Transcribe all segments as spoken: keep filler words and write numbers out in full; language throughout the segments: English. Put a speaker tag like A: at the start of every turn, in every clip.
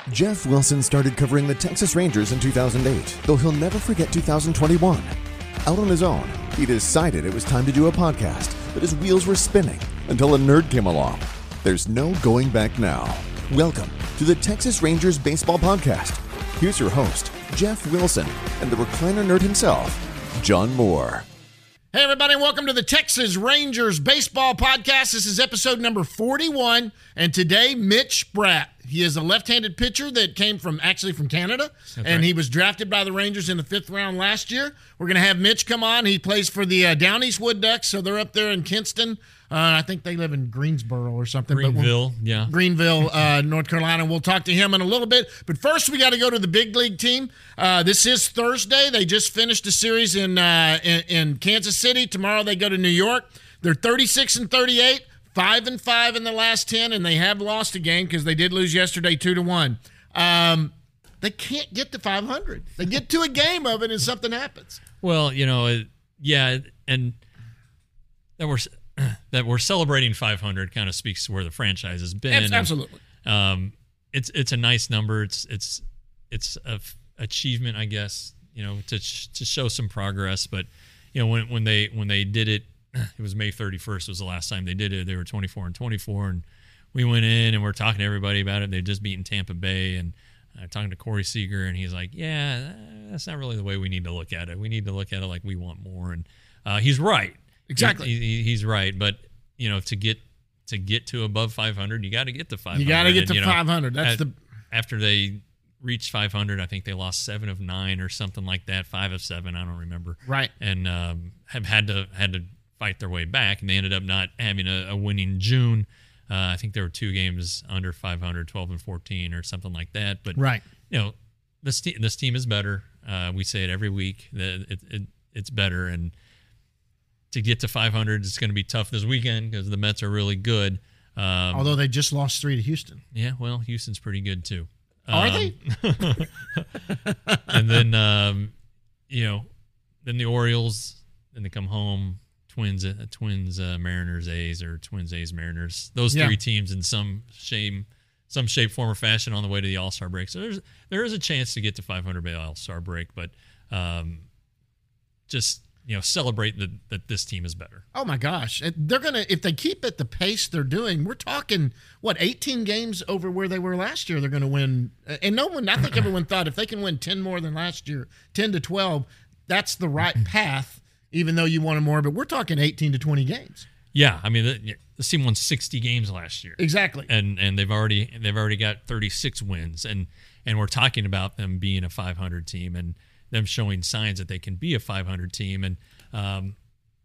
A: Jeff Wilson started covering the Texas Rangers in two thousand eight, though he'll never forget two thousand twenty-one. Out on his own, he decided it was time to do a podcast, but his wheels were spinning until a nerd came along. There's no going back now. Welcome to the Texas Rangers Baseball Podcast. Here's your host, Jeff Wilson, and the recliner nerd himself, John Moore.
B: Hey, everybody, welcome to the Texas Rangers Baseball Podcast. This is episode number forty-one, and today, Mitch Spratt. He is a left-handed pitcher that came from, actually from Canada, That's and right. He was drafted by the Rangers in the fifth round last year. We're going to have Mitch come on. He plays for the uh, Down East Wood Ducks, so they're up there in Kinston. Uh, I think they live in Greensboro or something.
C: Greenville,
B: but
C: yeah.
B: Greenville, uh, North Carolina. We'll talk to him in a little bit. But first, we got to go to the big league team. Uh, this is Thursday. They just finished a series in, uh, in in Kansas City. Tomorrow they go to New York. They're thirty-six and thirty-eight. Five and five in the last ten, and they have lost a game because they did lose yesterday two to one. Um, they can't get to five hundred. They get to a game of it, and something happens.
C: Well, you know, yeah, and that we're that we're celebrating five hundred kind of speaks to where the franchise has been.
B: Absolutely.
C: And, um, it's it's a nice number. It's it's it's a f- achievement, I guess. You know, to sh- to show some progress. But you know, when when they when they did it. It was May thirty-first was the last time they did it. They were twenty-four and twenty-four, and we went in and we're talking to everybody about it. They'd just beaten Tampa Bay, and uh, talking to Corey Seager, and he's like, yeah, that's not really the way we need to look at it. We need to look at it like we want more, and uh, he's right.
B: Exactly.
C: He, he, he's right, but, you know, to get to get to above five hundred, you got to get to five hundred.
B: You got to get to
C: and, you
B: five hundred.
C: Know,
B: That's
C: at,
B: the
C: After they reached five hundred, I think they lost seven of nine or something like that, five of seven, I don't remember.
B: Right.
C: And um, have had to had to fight their way back, and they ended up not having a, a winning June. Uh, I think there were two games under five hundred, twelve and fourteen or something like that. But,
B: right.
C: you know, this, te- this team is better. Uh, we say it every week that it, it, it's better. And to get to five hundred, it's going to be tough this weekend because the Mets are really good. Um,
B: Although they just lost three to Houston.
C: Yeah, well, Houston's pretty good too.
B: Are
C: um,
B: they?
C: And then, um, you know, then the Orioles, then they come home. Twins, uh, Twins, uh, Mariners, A's, or Twins, A's, Mariners. Those
B: yeah.
C: three teams in some shape, some shape, form, or fashion on the way to the All-Star break. So there's there is a chance to get to five hundred by All-Star break, but um, just you know celebrate that that this team is better.
B: Oh my gosh, they're gonna if they keep at the pace they're doing. We're talking what eighteen games over where they were last year. They're going to win, and no one, I think everyone thought if they can win ten more than last year, ten to twelve, that's the right path. Even though you wanted more, but we're talking eighteen to twenty games.
C: Yeah, I mean, the, the team won sixty games last year.
B: Exactly.
C: And and they've already they've already got thirty-six wins, and and we're talking about them being a five hundred team and them showing signs that they can be a five hundred team, and um,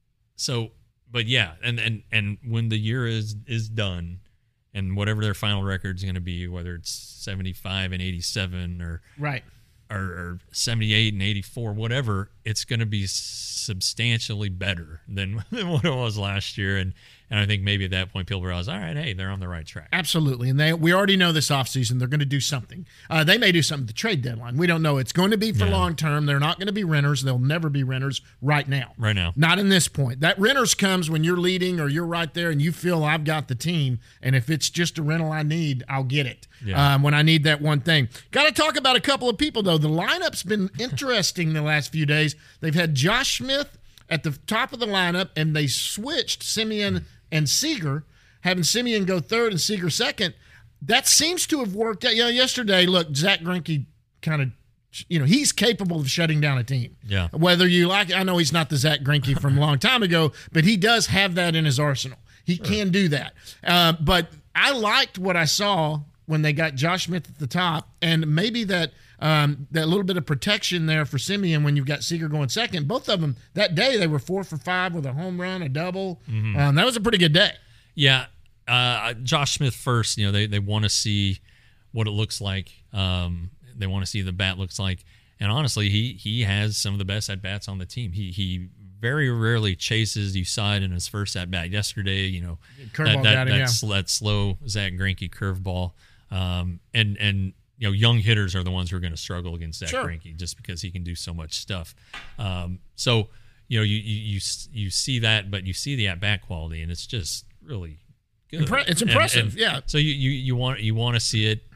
C: so, but yeah, and and and when the year is is done, and whatever their final record is going to be, whether it's seventy-five and eighty-seven or
B: right.
C: Or, or seventy-eight and eighty-four, whatever, it's going to be substantially better than, than what it was last year. And and I think maybe at that point people realize, all right, hey, they're on the right track.
B: Absolutely. And they we already know this offseason they're going to do something. Uh, they may do something at the trade deadline. We don't know. It's going to be for
C: yeah.
B: long term. They're not going to be renters. They'll never be renters right now.
C: Right now.
B: Not in this point. That renters comes when you're leading or you're right there and you feel I've got the team. And if it's just a rental I need, I'll get it.
C: Yeah.
B: Um, when I need that one thing. Got to talk about a couple of people, though. The lineup's been interesting the last few days. They've had Josh Smith at the top of the lineup, and they switched Semien and Seager, having Semien go third and Seager second. That seems to have worked out. You know, yesterday, look, Zach Greinke kind of, you know, he's capable of shutting down a team.
C: Yeah.
B: Whether you like, I know he's not the Zach Greinke from a long time ago, but he does have that in his arsenal. He sure. can do that. Uh, but I liked what I saw when they got Josh Smith at the top, and maybe that um, that little bit of protection there for Semien when you've got Seager going second. Both of them, that day, they were four for five with a home run, a double. Mm-hmm. Um, that was a pretty good day.
C: Yeah. Uh, Josh Smith first, you know, they, they want to see what it looks like. Um, they want to see the bat looks like. And honestly, he he has some of the best at-bats on the team. He he very rarely chases. You saw it in his first at-bat yesterday, you know,
B: curveball
C: that,
B: got
C: that,
B: him,
C: that,
B: yeah.
C: that slow Zach Greinke curveball. Um, and, and, you know, young hitters are the ones who are going to struggle against Zach
B: sure.
C: Greinke just because he can do so much stuff. Um, so, you know, you, you, you, you see that, but you see the at-bat quality, and it's just really good.
B: Impre- it's impressive,
C: and, and
B: yeah.
C: So you, you, you want you want to see it.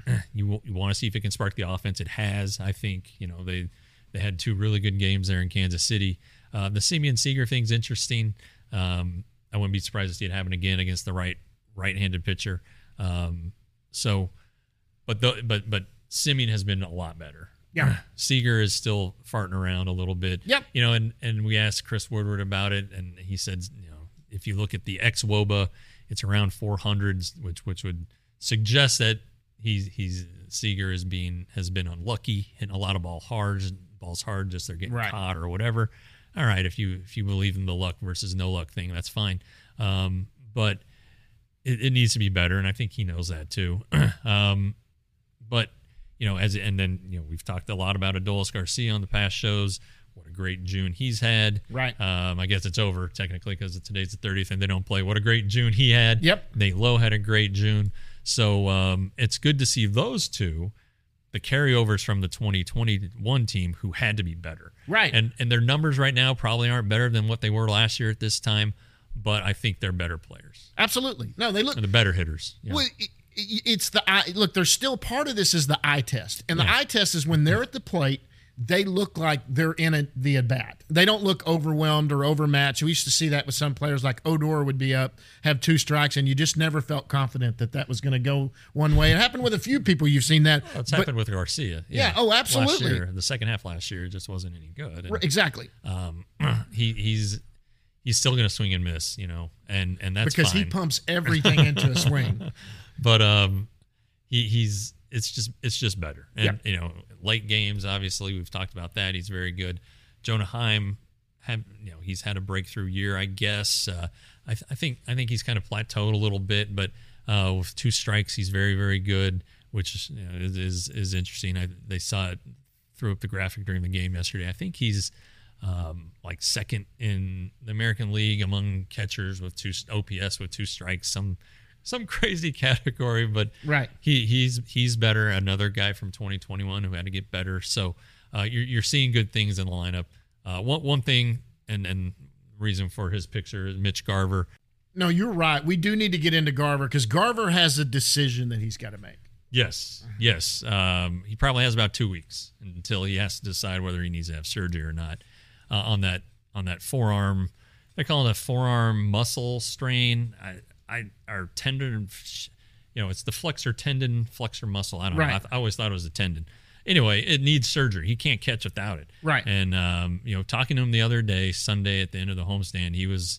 C: you you want to see if it can spark the offense. It has, I think. You know, they they had two really good games there in Kansas City. Uh, the Simeon Seager thing's interesting. Um, I wouldn't be surprised to see it happen again against the right right-handed pitcher. Um, so, but the, but but Simeon has been a lot better.
B: Yeah,
C: Seager is still farting around a little bit.
B: Yep.
C: You know, and and we asked Chris Woodward about it, and he said, you know, if you look at the ex-W O B A, it's around four hundreds, which which would suggest that he's he's Seager is being has been unlucky, hitting a lot of ball hard, balls hard, just they're getting
B: right.
C: caught or whatever. All right, if you if you believe in the luck versus no luck thing, that's fine. Um, but it, it needs to be better, and I think he knows that too. um, but you know, as and then you know, we've talked a lot about Adolis Garcia on the past shows. What a great June he's had.
B: Right.
C: Um, I guess it's over technically because today's the thirtieth and they don't play. What a great June he had.
B: Yep.
C: Nate Lowe had a great June. So um, it's good to see those two, the carryovers from the twenty twenty-one team who had to be better.
B: Right.
C: And and their numbers right now probably aren't better than what they were last year at this time, but I think they're better players.
B: Absolutely. No, they look.
C: They're the better hitters. Yeah.
B: Well, it, it's the eye. Look, there's still part of this is the eye test. And the
C: Yeah.
B: eye test is when they're at the plate, they look like they're in a, the at-bat. They don't look overwhelmed or overmatched. We used to see that with some players like Odor would be up, have two strikes, and you just never felt confident that that was going to go one way. It happened with a few people you've seen that.
C: Well, it's
B: but,
C: happened with Garcia.
B: Yeah, oh, absolutely.
C: Last year, the second half last year just wasn't any good. And,
B: exactly.
C: Um, he he's he's still going to swing and miss, you know, and and that's
B: because
C: fine.
B: he pumps everything into a swing.
C: But um, he he's it's just it's just better, and
B: Yep.
C: you know, late games. Obviously, we've talked about that. He's very good. Jonah Heim had you know he's had a breakthrough year, I guess. Uh, I, th- I think I think he's kind of plateaued a little bit, but uh, with two strikes, he's very very good, which you know, is, is is interesting. I, they saw it threw up the graphic during the game yesterday. I think he's um, like second in the American League among catchers with two O P S with two strikes. Some some crazy category, but
B: Right.
C: he he's he's better. Another guy from twenty twenty-one who had to get better. So uh, you're you're seeing good things in the lineup. Uh, one one thing and and reason for his picture is Mitch Garver.
B: No, you're right. We do need to get into Garver because Garver has a decision that he's got to make.
C: Yes, yes. Um, he probably has about two weeks until he has to decide whether he needs to have surgery or not uh, on that on that forearm. They call it a forearm muscle strain. I, I our tendon, you know, it's the flexor tendon, flexor muscle. I don't
B: Right.
C: know. I, th- I always thought it was a tendon. Anyway, it needs surgery. He can't catch without it.
B: Right.
C: And um, you know, talking to him the other day, Sunday at the end of the homestand, he was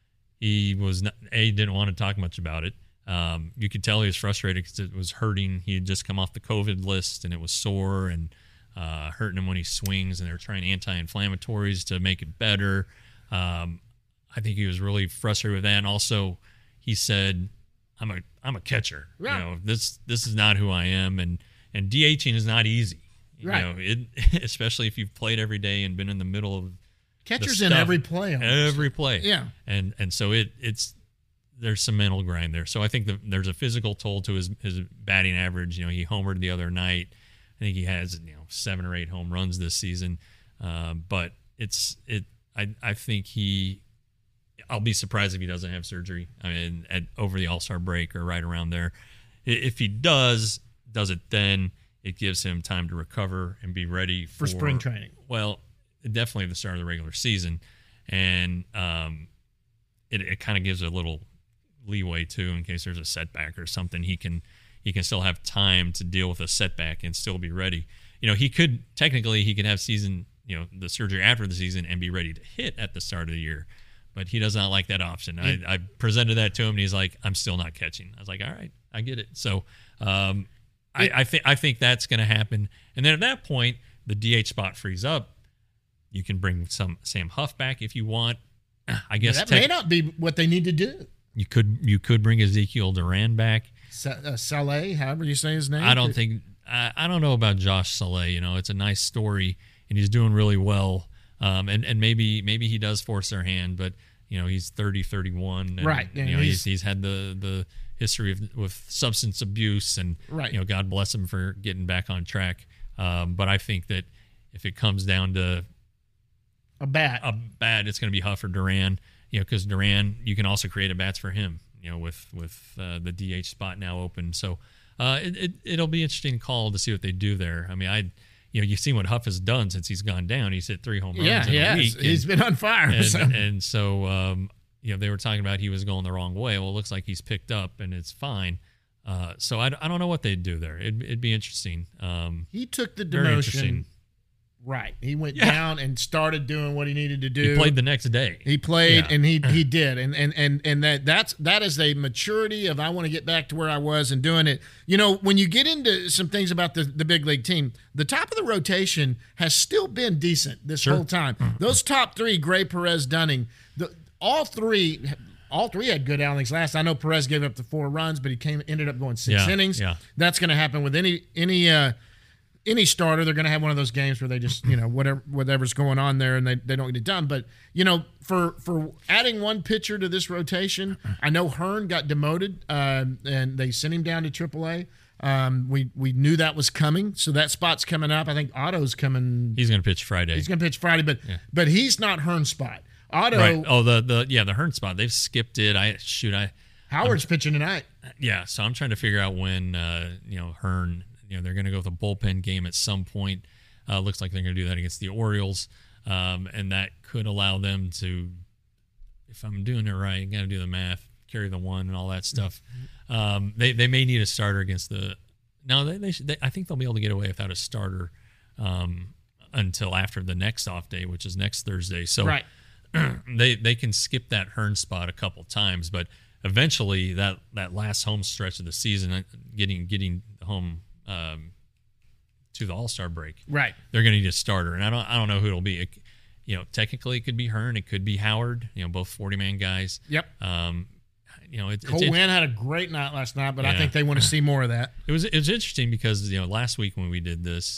C: he was not, a didn't want to talk much about it. Um, you could tell he was frustrated because it was hurting. He had just come off the COVID list and it was sore and uh, hurting him when he swings. And they were trying anti-inflammatories to make it better. Um, I think he was really frustrated with that. And also, he said, "I'm a I'm a catcher.
B: Yeah.
C: You know, this this is not who I am, and and DHing is not easy. You
B: Right.
C: know, it especially if you've played every day and been in the middle of
B: Catcher's
C: the
B: in
C: stuff,
B: every play. almost.
C: every play.
B: Yeah.
C: and and so it it's there's some mental grind there. So I think the, there's a physical toll to his his batting average. You know, he homered the other night. I think he has you know seven or eight home runs this season. Uh, but it's it. I I think he. I'll be surprised if he doesn't have surgery. I mean, at over the All-Star break or right around there. I- If he does, does it then? It gives him time to recover and be ready for,
B: For spring training.
C: Well, definitely the start of the regular season, and um, it it kind of gives a little leeway too in case there's a setback or something. He can he can still have time to deal with a setback and still be ready. You know, he could technically he could have season you know the surgery after the season and be ready to hit at the start of the year. But he does not like that option. I, I presented that to him, and he's like, "I'm still not catching." I was like, "All right, I get it." So, um, I, I think I think that's going to happen. And then at that point, the D H spot frees up. You can bring some Sam Huff back if you want. I guess
B: that
C: tech-
B: may not be what they need to do.
C: you could you could bring Ezekiel Duran back.
B: Sa- uh, Saleh, however you say his name.
C: I don't think I, I don't know about Josh Saleh. You know, it's a nice story, and he's doing really well. Um, and, and maybe maybe he does force their hand, but you know he's thirty, thirty-one, and,
B: Right,
C: You
B: and
C: know
B: he's-
C: he's he's had the, the history of with substance abuse, and
B: Right.
C: you know God bless him for getting back on track. Um, but I think that if it comes down to
B: a bat.
C: a bat, it's going to be Huff or Duran. You know, because Duran, you can also create a bats for him. You know, with with uh, the D H spot now open. So uh, it, it it'll be interesting call to see what they do there. I mean, I. You know, you've seen what Huff has done since he's gone down. He's hit three home runs
B: yeah,
C: in
B: he
C: a
B: has.
C: week. And,
B: He's been on fire.
C: and,
B: so.
C: and so, um, you know, they were talking about he was going the wrong way. Well, it looks like he's picked up and it's fine. Uh, so I, I don't know what they'd do there. It'd, it'd be interesting. Um,
B: he took the
C: very
B: demotion.
C: interesting.
B: Right. He went
C: Yeah.
B: down and started doing what he needed to do.
C: He played the next day.
B: He played
C: Yeah.
B: and he he did. And and and and that that's that is a maturity of I want to get back to where I was and doing it. You know, when you get into some things about the, the big league team, the top of the rotation has still been decent this
C: Sure.
B: whole time. Those top three, Gray, Perez, Dunning, the, all three all three had good outings last. I know Perez gave up the four runs, but he came ended up going six
C: Yeah,
B: innings.
C: yeah.
B: That's going to happen with any any uh any starter. They're going to have one of those games where they just, you know, whatever whatever's going on there and they, they don't get it done. But, you know, for for adding one pitcher to this rotation, I know Hearn got demoted uh, and they sent him down to triple A. Um, we, we knew that was coming, so that spot's coming up. I think Otto's coming.
C: He's going to pitch Friday.
B: He's going to pitch Friday, but
C: Yeah.
B: but he's not Hearn's spot. Otto,
C: Right. Oh, the, the yeah, the Hearn spot. They've skipped it. I shoot. I
B: Howard's pitching tonight.
C: Yeah, so I'm trying to figure out when uh, you know Hearn. You know they're going to go with a bullpen game at some point. Uh, looks like they're going to do that against the Orioles, um, and that could allow them to, if I'm doing it right, got to do the math, carry the one and all that stuff. Um, they they may need a starter against the. No, they they, should, they I think they'll be able to get away without a starter um, until after the next off day, which is next Thursday. So
B: Right.
C: they they can skip that Hearn spot a couple times, but eventually that, that last home stretch of the season, uh, getting getting home um, to the All-Star break,
B: Right.
C: they're going to need a starter, and I don't I don't know who it'll be. It, you know, technically it could be Hearn, it could be Howard. You know, both forty-man guys.
B: Yep.
C: Um, you know, it,
B: Cole
C: it, it,
B: Winn had a great night last night, but I
C: Yeah.
B: think they want to see more of that.
C: it was it was interesting because you know last week when we did this,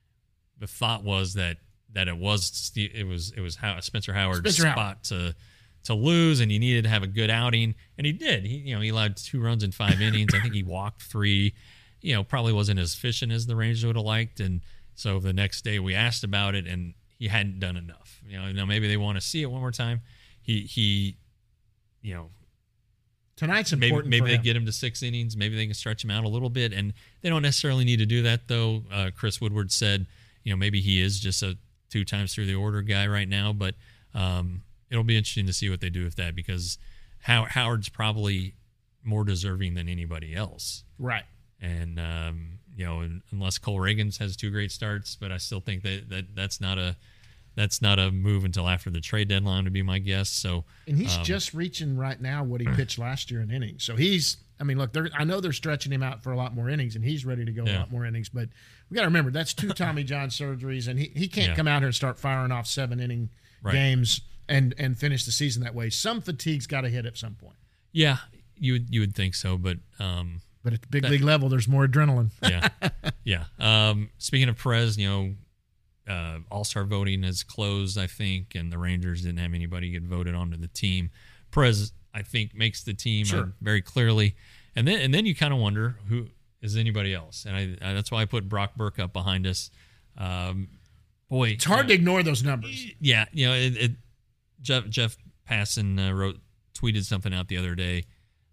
C: the thought was that that it was it was it was How, Spencer Howard's
B: Spencer
C: spot
B: Howard.
C: to to lose, and he needed to have a good outing, and he did. He you know he allowed two runs in five innings. I think he walked three. You know, probably wasn't as efficient as the Rangers would have liked, and so the next day we asked about it, and he hadn't done enough. You know, now maybe they want to see it one more time. He he, you know.
B: Tonight's
C: Maybe,
B: important
C: maybe
B: for
C: they
B: him.
C: get him to six innings. Maybe they can stretch him out a little bit, and they don't necessarily need to do that. Though uh, Chris Woodward said, you know, maybe he is just a two times through the order guy right now. But um, it'll be interesting to see what they do with that because How- Howard's probably more deserving than anybody else.
B: Right.
C: And um, you know, unless Cole Reagans has two great starts, but I still think that, that that's not a that's not a move until after the trade deadline, would be my guess. So.
B: And he's
C: um,
B: just reaching right now what he pitched last year in innings. So he's, I mean, look, they're, I know they're stretching him out for a lot more innings, and he's ready to go a
C: Yeah.
B: lot more innings. But we got to remember that's two Tommy John surgeries, and he, he can't
C: Yeah.
B: come out here and start firing off seven inning
C: Right.
B: games and and finish the season that way. Some fatigue's got to hit at some point.
C: Yeah, you would you would think so, but um,
B: But at the big
C: That-
B: league level, there's more adrenaline.
C: yeah, yeah. Um, speaking of Perez, you know, uh, All-Star voting has closed, I think, and the Rangers didn't have anybody get voted onto the team. Perez, I think, makes the team
B: Sure.
C: uh, very clearly, and then and then you kind of wonder who is anybody else, and I, I that's why I put Brock Burke up behind us. Um, boy,
B: It's hard to ignore those numbers.
C: yeah, you know, it, it, Jeff Jeff Passan uh, wrote tweeted something out the other day,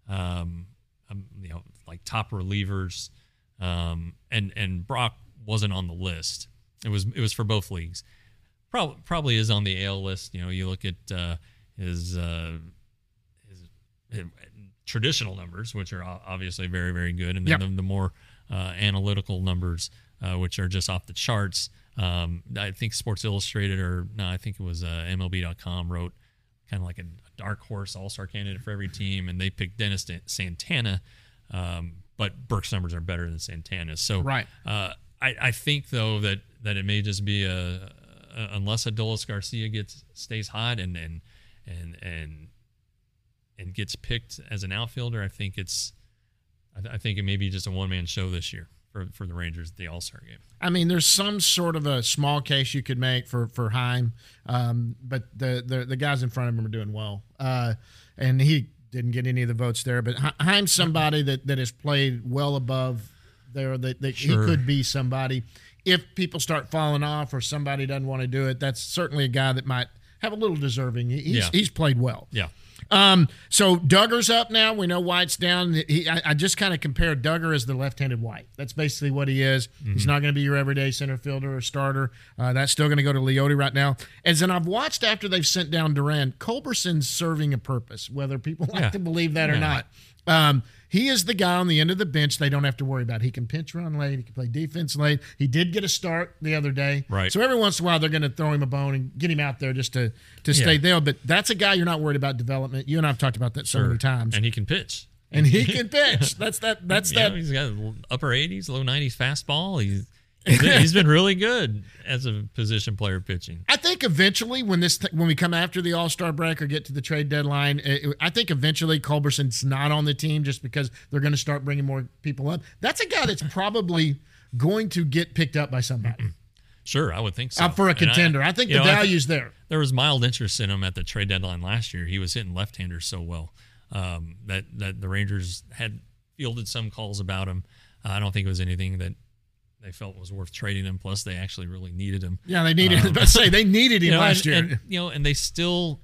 C: um, um, you know, like top relievers, um, and and Brock wasn't on the list. It was it was for both leagues. Probably probably is on the A L list. You know, you look at uh, his, uh, his his traditional numbers, which are o- obviously very very good, and then
B: Yep.
C: the, the more uh, analytical numbers, uh, which are just off the charts. Um, I think Sports Illustrated, or no, I think it was uh, M L B dot com, wrote kind of like a, a dark horse all-star candidate for every team, and they picked Dennis Santana, um, but Burke's numbers are better than Santana's. So
B: Right.
C: uh, I, I think though that that it may just be a, a unless Adolis Garcia gets stays hot and and and and and gets picked as an outfielder. I think it's I, I think it may be just a one-man show this year for for the Rangers at the All-Star game.
B: I mean, there's some sort of a small case you could make for for Heim, um, but the, the the guys in front of him are doing well, uh, and he didn't get any of the votes there. But He- Heim's somebody that, that has played well above there. That, that
C: Sure.
B: he could be somebody. If people start falling off or somebody doesn't want to do it, that's certainly a guy that might have a little deserving. He- He's
C: Yeah.
B: he's played well.
C: Yeah.
B: Um, so Duggar's up now. We know White's down. He, I, I just kind of compared Duggar as the left-handed White. That's basically what he is. Mm-hmm. He's not going to be your everyday center fielder or starter. Uh, that's still going to go to Leote right now. And then I've watched after they've sent down Duran, Culberson's serving a purpose, whether people like
C: yeah.
B: to believe that
C: yeah.
B: or not. Um, he is the guy on the end of the bench they don't have to worry about. He can pinch run late. He can play defense late. He did get a start the other day.
C: Right.
B: So every once in a while they're going to throw him a bone and get him out there just to, to stay
C: yeah.
B: there. But that's a guy you're not worried about development. You and I have talked about that so
C: sure.
B: many times.
C: And he can pitch.
B: And he can pitch. That's that. That's
C: yeah,
B: that.
C: He's got upper eighties, low nineties fastball. He's he's been, he's been really good as a position player pitching.
B: I think eventually, when this when we come after the All-Star break or get to the trade deadline, it, I think eventually Culberson's not on the team just because they're going to start bringing more people up. That's a guy that's probably going to get picked up by somebody.
C: Sure, I would think so.
B: Uh, for a contender. I, I think the know, value's th- there.
C: There was mild interest in him at the trade deadline last year. He was hitting left-handers so well um, that, that the Rangers had fielded some calls about him. Uh, I don't think it was anything that they felt was worth trading him. Plus, they actually really needed him.
B: Yeah, they needed. Um, I was about to say they needed him
C: you know,
B: last
C: and,
B: year.
C: And, you know, and they still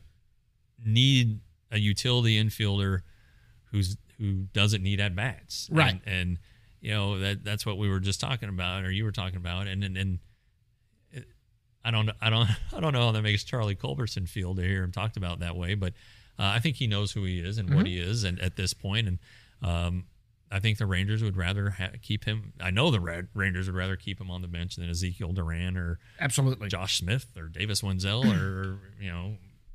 C: need a utility infielder who's who doesn't need at bats.
B: Right.
C: And, and you know that that's what we were just talking about, or you were talking about, and and. and it, I don't, I don't, I don't know how that makes Charlie Culberson feel to hear him talked about that way, but uh, I think he knows who he is and mm-hmm. what he is, and at this point, and um, I think the Rangers would rather ha- keep him. I know the Red Rangers would rather keep him on the bench than Ezekiel Duran or
B: absolutely
C: Josh Smith or Davis Wenzel or you know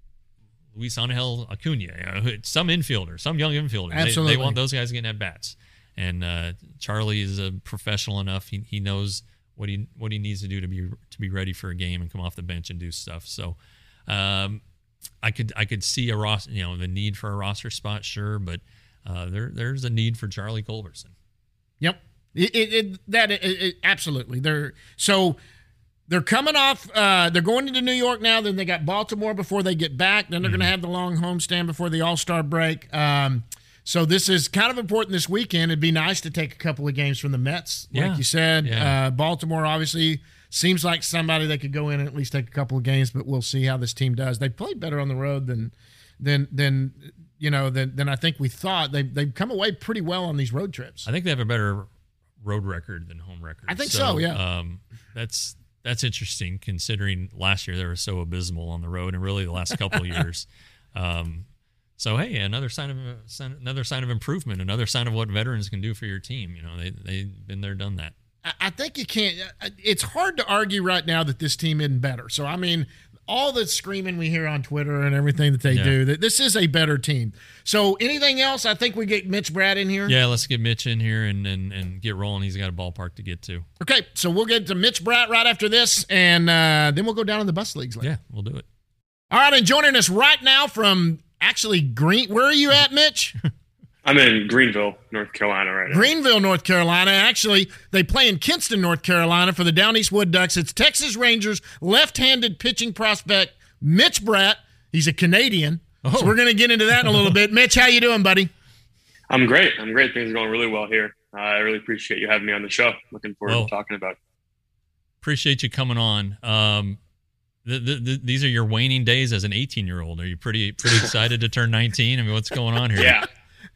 C: Luis Angel Acuna, you know, some infielder, some young infielder.
B: Absolutely,
C: they, they want those guys getting at bats, and uh, Charlie is a professional enough. He he knows what he what he needs to do to be to be ready for a game and come off the bench and do stuff. So, um, I could I could see a roster, you know, the need for a roster spot, sure, but uh, there there's a need for Charlie Culberson.
B: Yep, it, it, it that it, it, absolutely. They're so they're coming off. Uh, they're going into New York now. Then they got Baltimore before they get back. Then they're mm-hmm. going to have the long homestand before the All-Star break. Um, So this is kind of important this weekend. It'd be nice to take a couple of games from the Mets, like
C: yeah.
B: you said.
C: Yeah.
B: Uh, Baltimore obviously seems like somebody that could go in and at least take a couple of games, but we'll see how this team does. They played better on the road than than than you know than than I think we thought. They they've come away pretty well on these road trips.
C: I think they have a better road record than home record.
B: I think so. so yeah.
C: Um, that's that's interesting considering last year they were so abysmal on the road, and really the last couple of years. Um, So hey, another sign of another sign of improvement, another sign of what veterans can do for your team. You know, they they've been there, done that.
B: I think you can't. It's hard to argue right now that this team isn't better. So I mean, all the screaming we hear on Twitter and everything that they
C: yeah.
B: do, that this is a better team. So anything else? I think we get Mitch Bratt in here.
C: Yeah, let's get Mitch in here and and, and get rolling. He's got a ballpark to get to.
B: Okay, so we'll get to Mitch Bratt right after this, and uh, then we'll go down to the bus leagues later.
C: Yeah, we'll do it.
B: All right, and joining us right now from actually Green. Where are you at, Mitch?
D: I'm in Greenville, North Carolina right now.
B: Greenville, North Carolina. Actually, they play in Kinston, North Carolina for the Down East Wood Ducks. It's Texas Rangers left-handed pitching prospect Mitch Bratt. He's a Canadian. Oh. So we're going to get into that in a little bit. Mitch, how you doing, buddy?
D: I'm great. I'm great. Things are going really well here. Uh, I really appreciate you having me on the show. Looking forward
C: well,
D: to talking about it.
C: Appreciate you coming on. Um, The, the, the, these are your waning days as an eighteen-year-old. Are you pretty pretty excited to turn nineteen? I mean, what's going on here?
D: Yeah,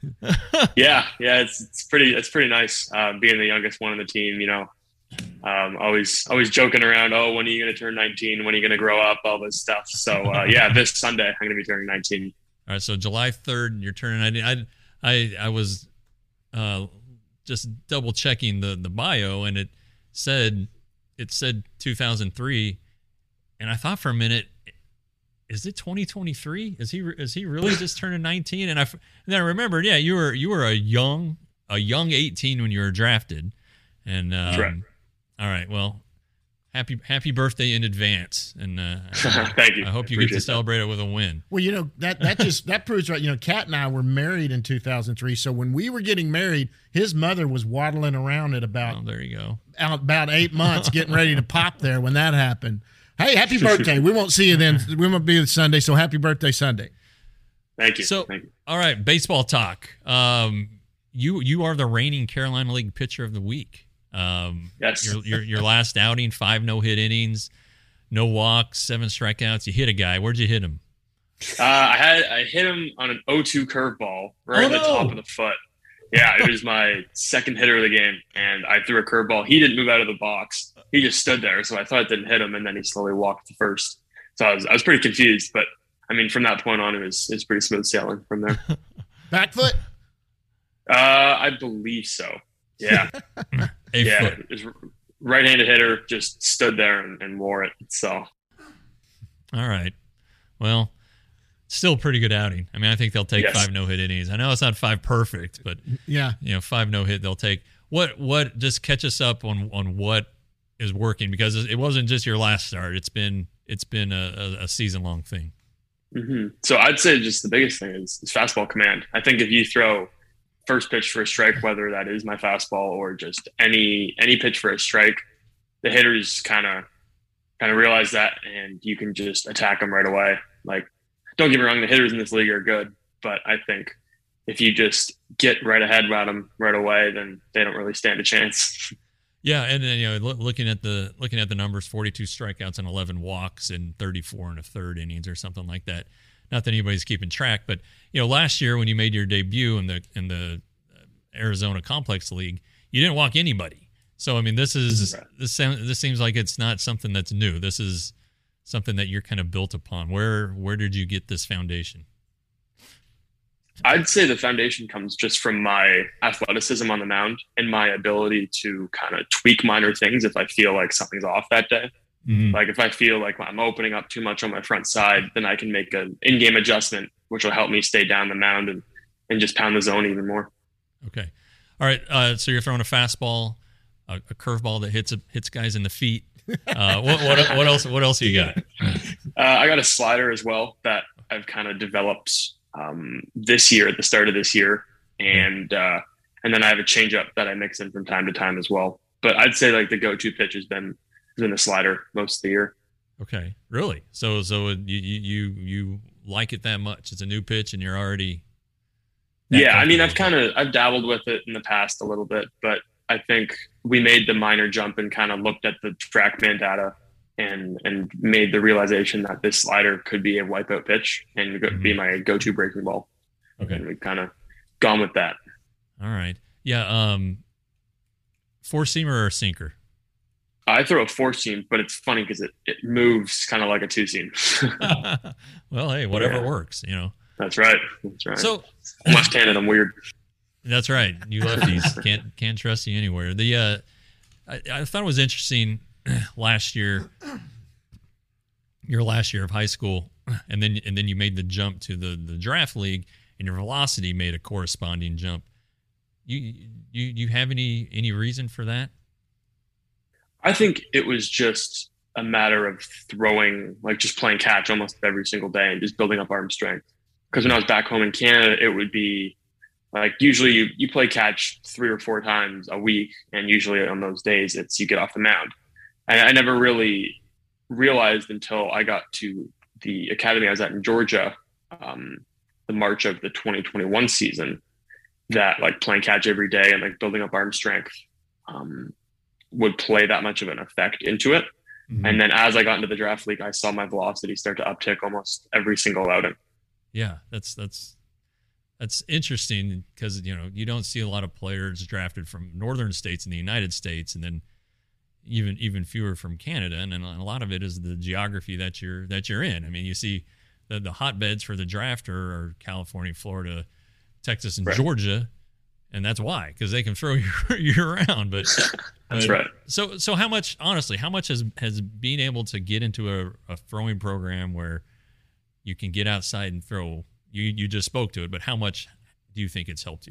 D: yeah, yeah. It's it's pretty it's pretty nice uh, being the youngest one on the team. You know, um, always always joking around. Oh, when are you going to turn nineteen? When are you going to grow up? All this stuff. So uh, yeah, this Sunday I'm going to be turning nineteen.
C: All right, so July third, you're turning nineteen. I I I was uh, just double checking the the bio, and it said it said two thousand three. And I thought for a minute, is it twenty twenty-three? Is he is he really just turning nineteen? And I and then I remembered, yeah, you were you were a young a young eighteen when you were drafted. And um,
D: That's right.
C: All right, well, happy happy birthday in advance. And uh,
D: thank you.
C: I hope
D: I
C: you get to
D: that.
C: celebrate it with a win.
B: Well, you know that that just that proves right. You know, Kat and I were married in two thousand three. So when we were getting married, his mother was waddling around at about
C: oh, there you go
B: about eight months, getting ready to pop there when that happened. Hey, happy birthday. We won't see you then. We won't be Sunday, so happy birthday Sunday.
D: Thank you.
C: So,
D: Thank you.
C: All right, baseball talk. Um, you you are the reigning Carolina League pitcher of the week. Um,
D: yes.
C: Your, your, your last outing, five no-hit innings, no walks, seven strikeouts. You hit a guy. Where'd you hit him?
D: Uh, I had I hit him on an oh two curveball right
C: Oh,
D: in the
C: no.
D: top of the foot. Yeah, it was my second hitter of the game, and I threw a curveball. He didn't move out of the box. He just stood there, so I thought it didn't hit him, and then he slowly walked to first. So I was I was pretty confused, but I mean, from that point on, it was it was pretty smooth sailing from there.
B: Back foot?
D: Uh, I believe so. Yeah,
C: A
D: yeah.
C: foot.
D: It was right-handed hitter, just stood there and, and wore it. So
C: All right. Well, still a pretty good outing. I mean, I think they'll take
D: Yes.
C: five no-hit innings. I know it's not five perfect, but
B: Yeah.
C: you know, five no-hit they'll take. What what just catch us up on on what is working, because it wasn't just your last start. It's been it's been a, a, a season-long thing.
D: hmm So I'd say just the biggest thing is, is fastball command. I think if you throw first pitch for a strike, whether that is my fastball or just any any pitch for a strike, the hitters kind of kind of realize that, and you can just attack them right away. Like, don't get me wrong, the hitters in this league are good, but I think if you just get right ahead at them right away, then they don't really stand a chance.
C: Yeah, and then you know, loo- looking at the looking at the numbers, forty-two strikeouts and eleven walks in thirty-four and a third innings or something like that. Not that anybody's keeping track, but you know, last year when you made your debut in the in the Arizona Complex League, you didn't walk anybody. So I mean, this is
D: Right.
C: this sound, this seems like it's not something that's new. This is something that you're kind of built upon. Where where did you get this foundation?
D: I'd say the foundation comes just from my athleticism on the mound and my ability to kind of tweak minor things if I feel like something's off that day.
C: Mhm.
D: Like if I feel like I'm opening up too much on my front side, then I can make an in-game adjustment, which will help me stay down the mound and, and just pound the zone even more.
C: Okay, all right. Uh, so you're throwing a fastball, a, a curveball that hits hits guys in the feet. Uh, what, what what else? What else you got?
D: Uh, I got a slider as well that I've kind of developed um, this year, at the start of this year, and uh, and then I have a changeup that I mix in from time to time as well. But I'd say like the go-to pitch has been has been the slider most of the year.
C: Okay, really? So so you you you you like it that much? It's a new pitch, and you're already. that
D: Yeah, I mean, I've
C: comfortable
D: kind of I've dabbled with it in the past a little bit, but I think we made the minor jump and kind of looked at the TrackMan data and and made the realization that this slider could be a wipeout pitch and go- be my go-to breaking ball.
C: Okay.
D: And we've kind of gone with that.
C: All right. Yeah. Um, four seamer or sinker?
D: I throw a four seam, but it's funny because it, it moves kind of like a two seam.
C: Well, hey, whatever
D: Yeah.
C: works, you know.
D: That's right. That's right.
C: So
D: I'm left-handed. I'm weird.
C: that's right. You lefties can't can't trust you anywhere. The uh, I, I thought it was interesting last year, your last year of high school, and then and then you made the jump to the the draft league, and your velocity made a corresponding jump. You you you have any any reason for that?
D: I think it was just a matter of throwing, like just playing catch almost every single day and just building up arm strength. Because when I was back home in Canada, it would be like usually you, you play catch three or four times a week. And usually on those days, it's you get off the mound. And I never really realized until I got to the academy I was at in Georgia, um, the March of the twenty twenty-one season, that like playing catch every day and like building up arm strength um, would play that much of an effect into it.
C: Mm-hmm.
D: And then as I got into the draft league, I saw my velocity start to uptick almost every single outing.
C: Yeah, that's that's that's interesting because you know you don't see a lot of players drafted from northern states in the United States, and then even even fewer from Canada, and then a lot of it is the geography that you're that you're in. I mean, you see the the hotbeds for the draft are, are California, Florida, Texas, and
D: Right.
C: Georgia, and that's why, because they can throw you year round. But
D: That's
C: but-
D: right.
C: So so how much honestly, how much has has being able to get into a, a throwing program where you can get outside and throw? You you just spoke to it, but how much do you think it's helped you?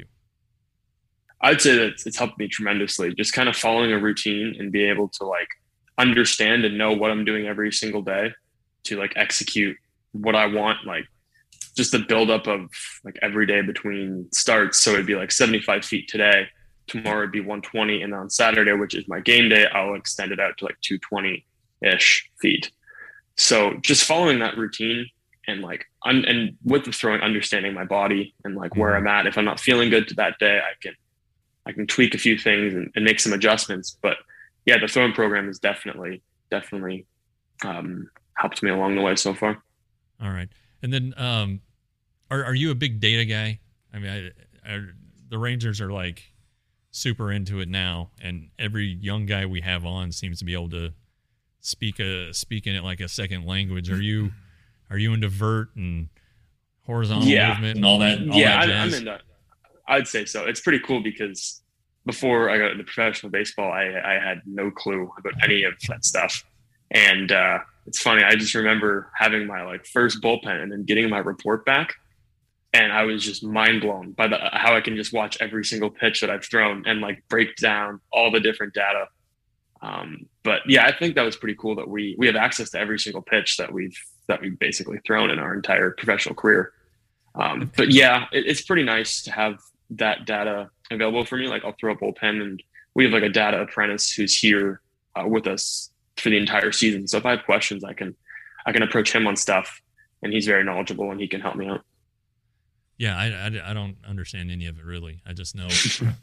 D: I'd say that it's helped me tremendously. Just kind of following a routine and be able to like understand and know what I'm doing every single day to like execute what I want. Like just the buildup of like every day between starts. So it'd be like seventy-five feet today. Tomorrow it'd be one twenty, and on Saturday, which is my game day, I'll extend it out to like two twenty ish feet. So just following that routine and like un- and with the throwing, understanding my body and like where I'm at. If I'm not feeling good to that day, I can I can tweak a few things and, and make some adjustments. But yeah, the throwing program has definitely definitely um, helped me along the way so far.
C: All right. And then, um, are are you a big data guy? I mean, I, I, the Rangers are like super into it now, and every young guy we have on seems to be able to speak a speak in it like a second language. Are you are you into vert and horizontal
D: yeah.
C: movement and all that? All
D: yeah,
C: that
D: I, I'm
C: jazz?
D: into. I'd say so. It's pretty cool because before I got into professional baseball, I I had no clue about any of that stuff, and uh, it's funny. I just remember having my like first bullpen and then getting my report back. And I was just mind blown by the how I can just watch every single pitch that I've thrown and like break down all the different data. Um, but yeah, I think that was pretty cool that we we have access to every single pitch that we've that we've basically thrown in our entire professional career. Um, but yeah, it, it's pretty nice to have that data available for me. Like I'll throw a bullpen, and we have like a data apprentice who's here uh, with us for the entire season. So if I have questions, I can I can approach him on stuff, and he's very knowledgeable and he can help me out.
C: Yeah, I, I, I don't understand any of it really. I just know,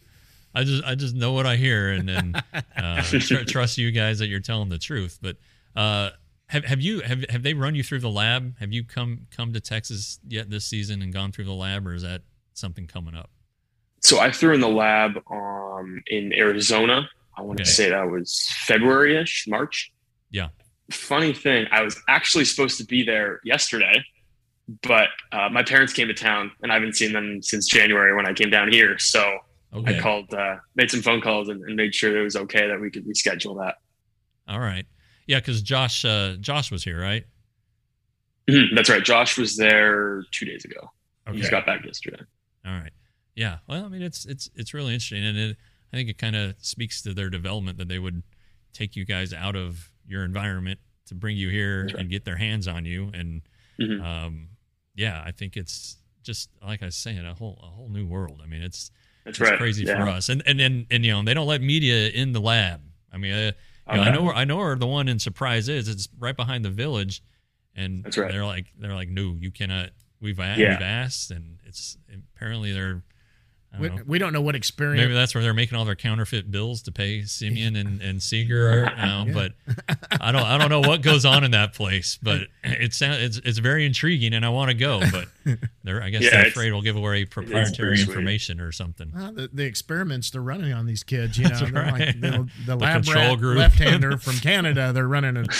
C: I just I just know what I hear, and then uh, tr- trust you guys that you're telling the truth. But uh, have have you have have they run you through the lab? Have you come come to Texas yet this season and gone through the lab, or is that something coming up?
D: So I threw in the lab um, in Arizona. I want
C: Okay.
D: to say that was February-ish, March.
C: Yeah.
D: Funny thing, I was actually supposed to be there yesterday. But uh, my parents came to town, and I haven't seen them since January when I came down here. So
C: Okay.
D: I called, uh, made some phone calls, and, and made sure it was okay that we could reschedule that.
C: All right. Yeah, because Josh uh, Josh was here, right?
D: Mhm, that's right. Josh was there two days ago. He just got back yesterday.
C: All right. Yeah. Well, I mean, it's it's it's really interesting, and it, I think it kind of speaks to their development that they would take you guys out of your environment to bring you here
D: That's right.
C: and get their hands on you, and
D: Mhm.
C: um, yeah, I think it's just like I was saying, a whole a whole new world. I mean, it's
D: That's
C: it's
D: right.
C: crazy
D: Yeah.
C: for us, and and and, and you know, they don't let media in the lab. I mean, uh, you know, I
D: Okay.
C: know where I know where the one in Surprise is. It's right behind the village, and
D: That's right.
C: they're like they're like, no, you cannot. We've a-
D: Yeah.
C: we've asked, and it's apparently they're. I
B: We,
C: don't know.
B: we don't know what experience.
C: Maybe that's where they're making all their counterfeit bills to pay Simeon and, and Seager right now.
B: Yeah.
C: But I don't I don't know what goes on in that place. But it sounds it's it's very intriguing, and I want to go. But they're I guess
D: Yeah,
C: they're
D: it's-
C: afraid we'll give away proprietary
D: pretty sweet.
C: information or something.
B: Well, the, the experiments they're running on these kids, you know,
C: That's
B: they're
C: right.
B: like the, the
C: The
B: lab
C: control
B: rat
C: group.
B: left-hander from Canada. They're running it.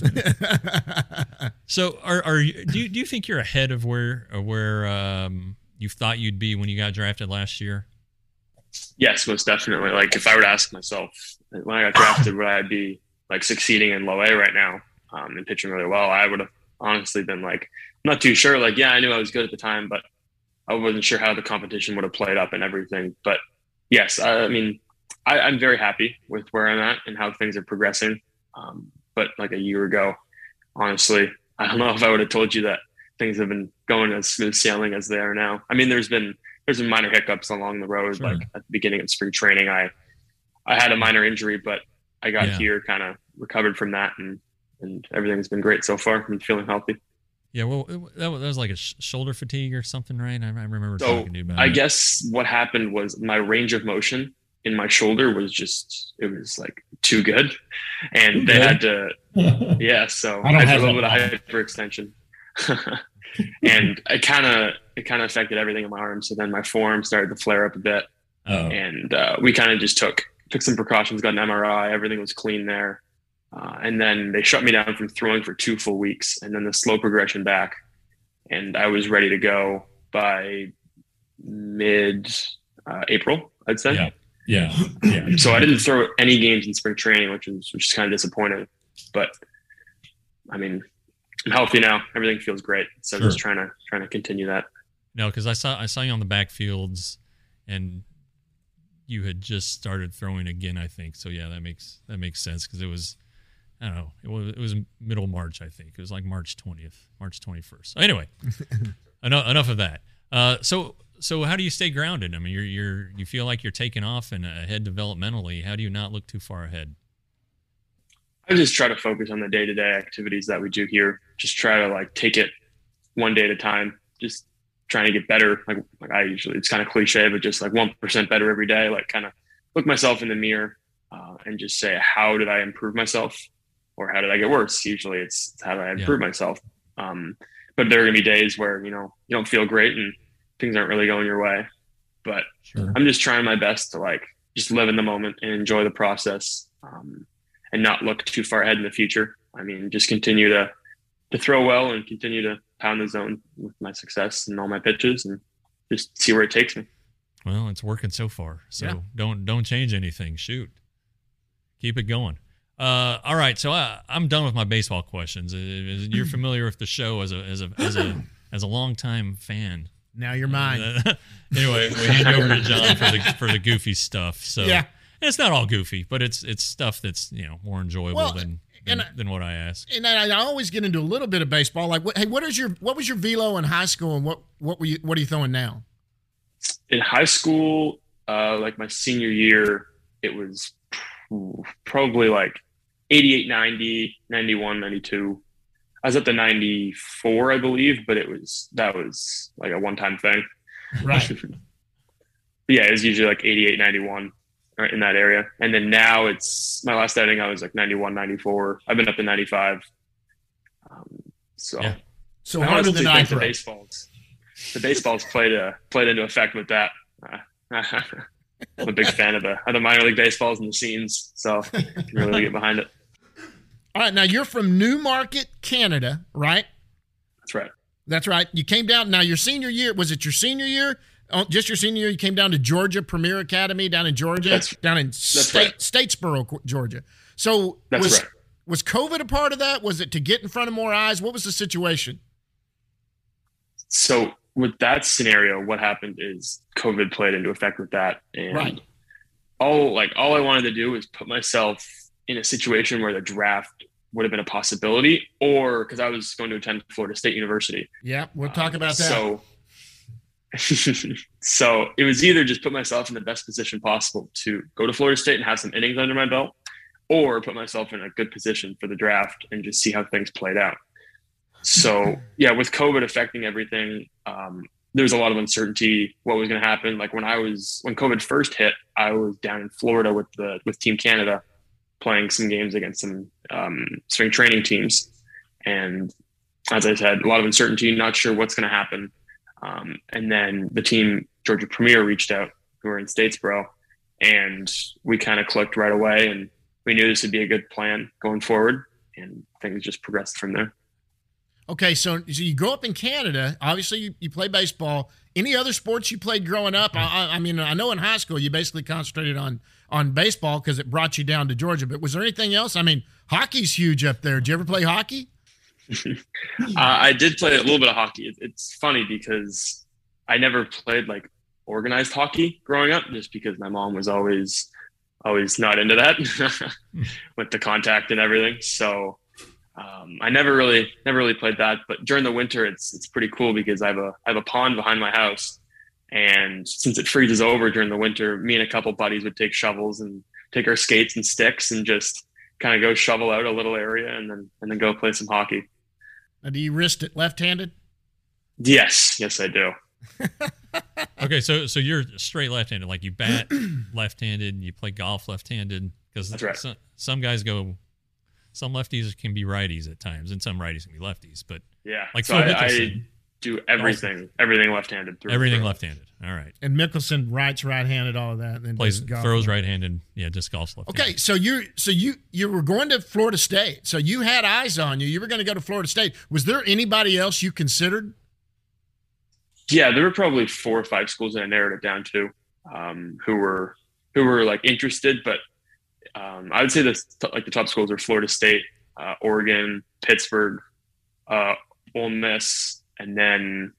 C: So are are you, do you do you think you're ahead of where of where um, you thought you'd be when you got drafted last year?
D: Yes, most definitely. Like if I were to ask myself when I got drafted, would I be like succeeding in low A right now um, and pitching really well? I would have honestly been like, I'm not too sure. Like, yeah, I knew I was good at the time, but I wasn't sure how the competition would have played up and everything. But yes, I, I mean, I, I'm very happy with where I'm at and how things are progressing. Um, but like a year ago, honestly, I don't know if I would have told you that things have been going as smooth sailing as they are now. I mean, there's been there's been minor hiccups along the road.
C: Sure.
D: Like at the beginning of spring training, I I had a minor injury, but I got
C: Yeah.
D: here, kind of recovered from that, and and everything's been great so far. I'm feeling healthy.
C: Yeah, well, it, that, was, that was like a sh- shoulder fatigue or something, right? I, I remember
D: So
C: talking to you about
D: I
C: it.
D: guess what happened was my range of motion in my shoulder was just it was like too good, and they
E: good.
D: had to yeah. So
E: I don't
D: had
E: have
D: a little bit
E: that
D: of hyperextension, and it kind of it kind of affected everything in my arm. So then my forearm started to flare up a bit,
E: Oh,
D: and uh, we kind of just took took some precautions, got an M R I, everything was clean there, uh, and then they shut me down from throwing for two full weeks, and then the slow progression back, and I was ready to go by mid uh, April, I'd say.
E: yeah, yeah, yeah.
D: So I didn't throw any games in spring training, which was which is kind of disappointing, but I mean, I'm healthy now. Everything feels great, so
C: Sure.
D: just trying to trying to continue that.
C: No, because I saw I saw you on the backfields, and you had just started throwing again, I think. So yeah, that makes that makes sense because it was I don't know it was it was middle March, I think. It was like March twentieth, March twenty-first. Anyway, enough enough of that. Uh, so so how do you stay grounded? I mean, you're you're you feel like you're taking off and ahead developmentally. How do you not look too far ahead?
D: I just try to focus on the day-to-day activities that we do here. Just try to like take it one day at a time. Just trying to get better. Like, like I usually, it's kind of cliche, but just like one percent better every day. Like kind of look myself in the mirror uh, and just say, how did I improve myself? Or how did I get worse? Usually it's how did I improve myself? Um, but there are going to be days where, you know, you don't feel great and things aren't really going your way. But sure. I'm just trying my best to like just live in the moment and enjoy the process, um, and not look too far ahead in the future. I mean, just continue to to throw well and continue to pound the zone with my success and all my pitches and just see where it takes me.
C: Well, it's working so far. So
B: yeah.
C: don't don't change anything. Shoot. Keep it going. Uh, all right, so I, I'm done with my baseball questions. You're familiar with the show as a as a as a as a longtime fan.
B: Now you're mine.
C: Uh, anyway, we hand over to John for the for the goofy stuff. So
B: yeah.
C: It's not all goofy, but it's it's stuff that's, you know, more enjoyable
B: well,
C: than than,
B: and,
C: than what I ask.
B: And I, I always get into a little bit of baseball. Like, what, hey, what is your what was your velo in high school, and what what were you what are you throwing now?
D: In high school, uh, like my senior year, it was probably like eighty-eight, ninety, ninety-one, ninety-two. I was at the ninety-four, I believe, but it was that was like a one-time thing.
B: Right.
D: Yeah, it was usually like eighty-eight, ninety-one. Right in that area. And then now it's my last outing, I was like ninety-one, ninety-four. I've been up to ninety-five. Um, so,
B: yeah. So
D: I
B: harder than I
D: the baseballs. The baseballs played uh, played into effect with that. Uh, I'm a big fan of the of the minor league baseballs and the scenes, so I can really get behind it.
B: All right, now you're from Newmarket, Canada, right?
D: That's right.
B: That's right. You came down. Now your senior year, was it your senior year? Oh, just your senior year, you came down to Georgia Premier Academy down in Georgia,
D: that's,
B: down in state,
D: right.
B: Statesboro, Georgia. So
D: that's
B: was,
D: right.
B: was COVID a part of that? Was it to get in front of more eyes? What was the situation?
D: So with that scenario, what happened is COVID played into effect with that. And
B: right.
D: all like all I wanted to do was put myself in a situation where the draft would have been a possibility, or because I was going to attend Florida State University.
B: Yeah, we'll talk about that.
D: So So it was either just put myself in the best position possible to go to Florida State and have some innings under my belt, or put myself in a good position for the draft and just see how things played out. So yeah, with COVID affecting everything, um, there was a lot of uncertainty what was going to happen. Like when I was, when COVID first hit, I was down in Florida with the, with Team Canada playing some games against some um, spring training teams. And as I said, a lot of uncertainty, not sure what's going to happen. Um, and then the team Georgia Premier reached out, who were in Statesboro, and we kind of clicked right away, and we knew this would be a good plan going forward, and things just progressed from there.
B: Okay, so, so you grow up in Canada. Obviously, you, you play baseball. Any other sports you played growing up? I, I mean, I know in high school you basically concentrated on on baseball because it brought you down to Georgia. But was there anything else? I mean, hockey's huge up there. Did you ever play hockey?
D: uh, I did play a little bit of hockey. It, it's funny because I never played like organized hockey growing up, just because my mom was always always not into that with the contact and everything. So um, I never really never really played that. But during the winter, it's it's pretty cool because I have a I have a pond behind my house, and since it freezes over during the winter, me and a couple buddies would take shovels and take our skates and sticks and just kind of go shovel out a little area and then and then go play some hockey.
B: Now, do you wrist it left-handed?
D: Yes, yes, I do.
C: Okay, so so you're straight left-handed, like you bat left-handed, you play golf left-handed, because
D: that's right.
C: Some, some guys go, some lefties can be righties at times, and some righties can be lefties. But
D: yeah,
C: like
D: so
C: Phil
D: I,
C: Mickelson,
D: I do everything, everything left-handed. Through
C: everything
D: through.
C: left-handed. All right.
B: And Mickelson rights, right-handed, all of that. And then
C: plays
B: golf.
C: throws right-handed. Yeah, just golf's left-handed.
B: Okay, so you so you you were going to Florida State. So you had eyes on you. You were going to go to Florida State. Was there anybody else you considered?
D: Yeah, there were probably four or five schools that I narrowed it down to, um, who were who were like interested. But um, I would say the like the top schools are Florida State, uh, Oregon, Pittsburgh, uh, Ole Miss, and then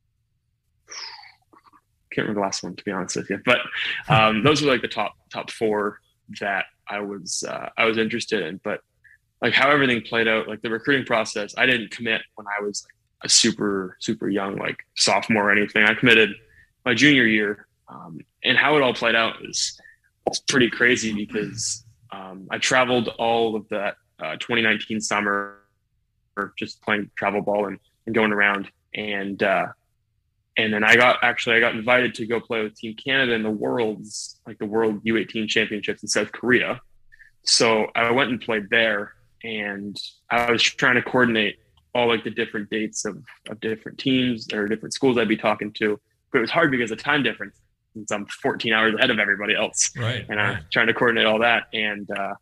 D: can't remember the last one, to be honest with you. But um, those were like the top top four that I was uh, I was interested in. But like how everything played out, like the recruiting process, I didn't commit when I was like a super super young like sophomore or anything. I committed my junior year, um, and how it all played out was was pretty crazy because um, I traveled all of that uh, twenty nineteen summer, or just playing travel ball and, and going around and. Uh, And then I got actually I got invited to go play with Team Canada in the Worlds, like the World U eighteen Championships in South Korea. So I went and played there, and I was trying to coordinate all like the different dates of, of different teams or different schools I'd be talking to. But it was hard because of time difference, since I'm fourteen hours ahead of everybody else.
C: Right.
D: And
C: right.
D: I'm trying to coordinate all that. And uh,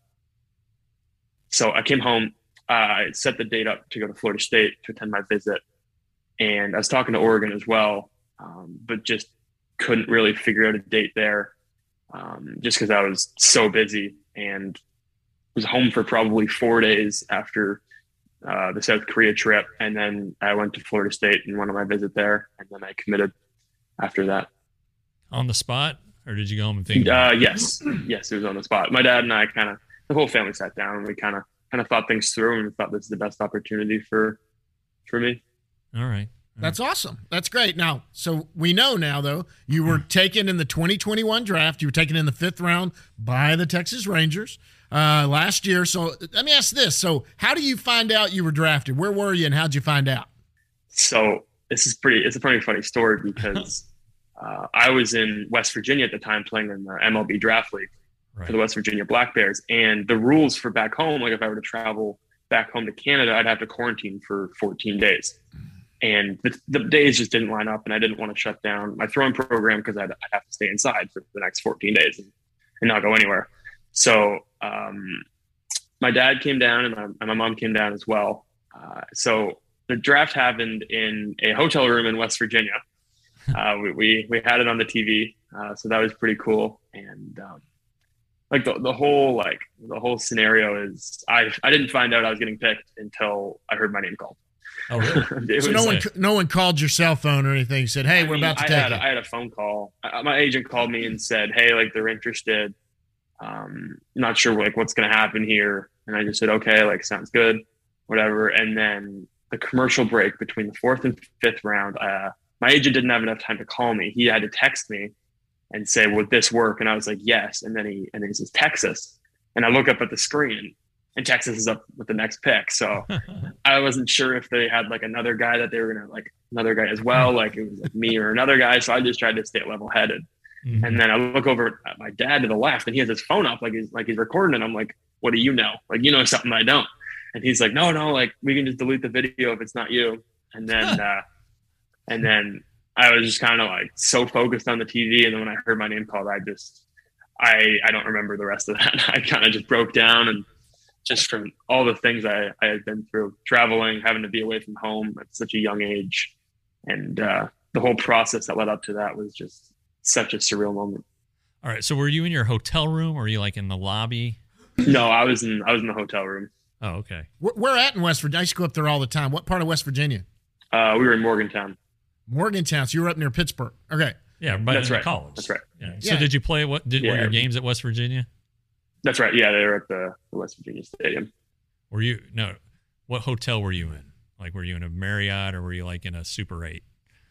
D: so I came home, uh, I set the date up to go to Florida State to attend my visit. And I was talking to Oregon as well, um, but just couldn't really figure out a date there um, just because I was so busy, and was home for probably four days after uh, the South Korea trip. And then I went to Florida State and went on my visit there. And then I committed after that.
C: On the spot, or did you go home and think?
D: Uh, yes. Yes, it was on the spot. My dad and I kind of, the whole family sat down and we kind of, kind of thought things through, and thought this is the best opportunity for, for me.
C: All right.
B: That's awesome. That's great. Now, so we know now, though, you were taken in the twenty twenty-one draft. You were taken in the fifth round by the Texas Rangers uh, last year. So let me ask this. So how do you find out you were drafted? Where were you, and how'd you find out?
D: So this is pretty, it's a pretty funny story because uh, I was in West Virginia at the time playing in the M L B Draft League
C: Right.
D: for the West Virginia Black Bears. And the rules for back home, like if I were to travel back home to Canada, I'd have to quarantine for fourteen days. And the, the days just didn't line up, and I didn't want to shut down my throwing program because I'd, I'd have to stay inside for the next fourteen days and, and not go anywhere. So um, my dad came down, and my, and my mom came down as well. Uh, so the draft happened in a hotel room in West Virginia. Uh, we, we we had it on the T V, uh, so that was pretty cool. And um, like the the whole like the whole scenario is, I I didn't find out I was getting picked until I heard my name called.
C: Oh, really?
D: It
B: So
D: was
B: no one,
C: like-
B: no one called your cell phone or anything. Said, "Hey,
D: I
B: we're
D: mean,
B: about to
D: I
B: take
D: had,
B: you."
D: I had a phone call. I, my agent called me and said, "Hey, like they're interested. Um, not sure like what's going to happen here." And I just said, "Okay, like sounds good, whatever." And then the commercial break between the fourth and fifth round, uh, my agent didn't have enough time to call me. He had to text me and say, "Would this work?" And I was like, "Yes." And then he and then he says, "Texas," and I look up at the screen, and Texas is up with the next pick. So I wasn't sure if they had like another guy that they were going to like another guy as well. Like it was like me or another guy. So I just tried to stay level headed.
C: Mhm.
D: And then I look over at my dad to the left, and he has his phone up like he's like he's recording. And I'm like, "What do you know? Like, you know something I don't." And he's like, no, no, like we can just delete the video if it's not you. And then, uh, and then I was just kind of like so focused on the T V. And then when I heard my name called, I just, I, I don't remember the rest of that. I kind of just broke down, and just from all the things I, I had been through, traveling, having to be away from home at such a young age. And uh, the whole process that led up to that was just such a surreal moment.
C: All right. So were you in your hotel room, or were you like in the lobby?
D: No, I was in, I was in the hotel room.
C: Oh, okay.
B: Where, where at in West Virginia? I used to go up there all the time. What part of West Virginia?
D: Uh, we were in Morgantown.
B: Morgantown. So you were up near Pittsburgh. Okay.
C: Yeah, but
D: That's
C: in
D: right.
C: college.
D: That's right.
C: Yeah. So
B: Yeah.
C: did you play what did were
D: Yeah.
C: your games at West Virginia?
D: That's right. Yeah, they were at the, the West Virginia Stadium.
C: Were you no what hotel were you in? Like were you in a Marriott, or were you like in a Super eight?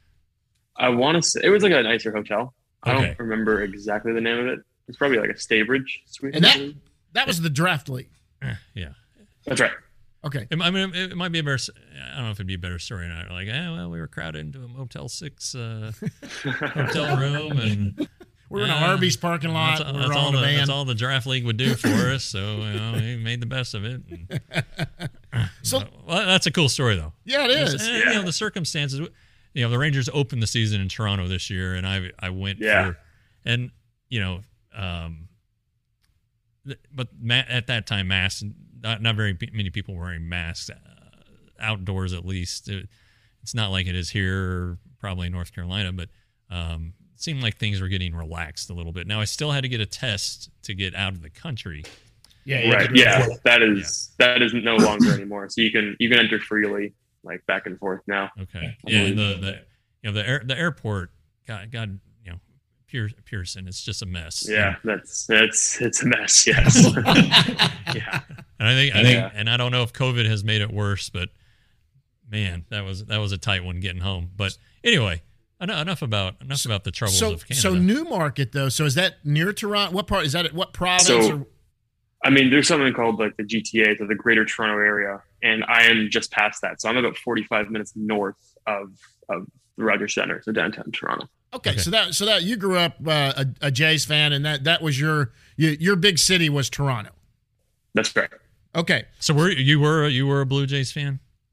D: I want to say it was like a nicer hotel. I
C: Okay.
D: don't remember exactly the name of it. It's probably like a Staybridge suite.
B: And that that was the draft league.
C: Eh, yeah.
D: That's right.
B: Okay.
C: It, I mean, it, it might be a better. I don't know if it'd be a better story or not. Like, eh, well, we were crowded into a Motel Six uh, hotel room, and
B: We're in
C: uh,
B: an Arby's parking lot.
C: That's,
B: We're
C: that's
B: all
C: all
B: in a
C: the,
B: van.
C: that's all the draft league would do for us. So you know, he made the best of it. And,
B: So
C: well, that's a cool story, though.
B: yeah, it is.
C: Eh, You know, the circumstances. You know, the Rangers opened the season in Toronto this year, and I I went
D: Yeah.
C: for, and you know, um, th- but ma- at that time, masks. Not, not very pe- many people were wearing masks uh, outdoors, at least. It, it's not like it is here, probably in North Carolina, but um, it seemed like things were getting relaxed a little bit. Now, I still had to get a test to get out of the country.
B: Yeah.
D: Right. Yeah. That is that is no longer anymore. So you can you can enter freely, like back and forth now.
C: Okay. Yeah, and the, the you know the air, the airport, God, God, you know, Pier, Pearson, it's just a mess.
D: Yeah, that's that's it's a mess. Yes. Yeah.
C: And I think I think
D: Yeah.
C: and I don't know if COVID has made it worse, but man, that was that was a tight one getting home. But anyway, en- enough about enough about the troubles
B: So
C: of Canada.
B: so Newmarket though. So is that near Toronto? What part is that? What province?
D: So-
B: or,
D: I mean, there's something called like the G T A, so the Greater Toronto Area, and I am just past that. So I'm about forty-five minutes north of of the Rogers Center, so downtown Toronto.
B: okay,
C: Okay.
B: so that so that you grew up uh, a, a Jays fan, and that that was your your, your big city was Toronto.
D: That's right.
B: Okay.
C: so were you were you were a Blue Jays fan?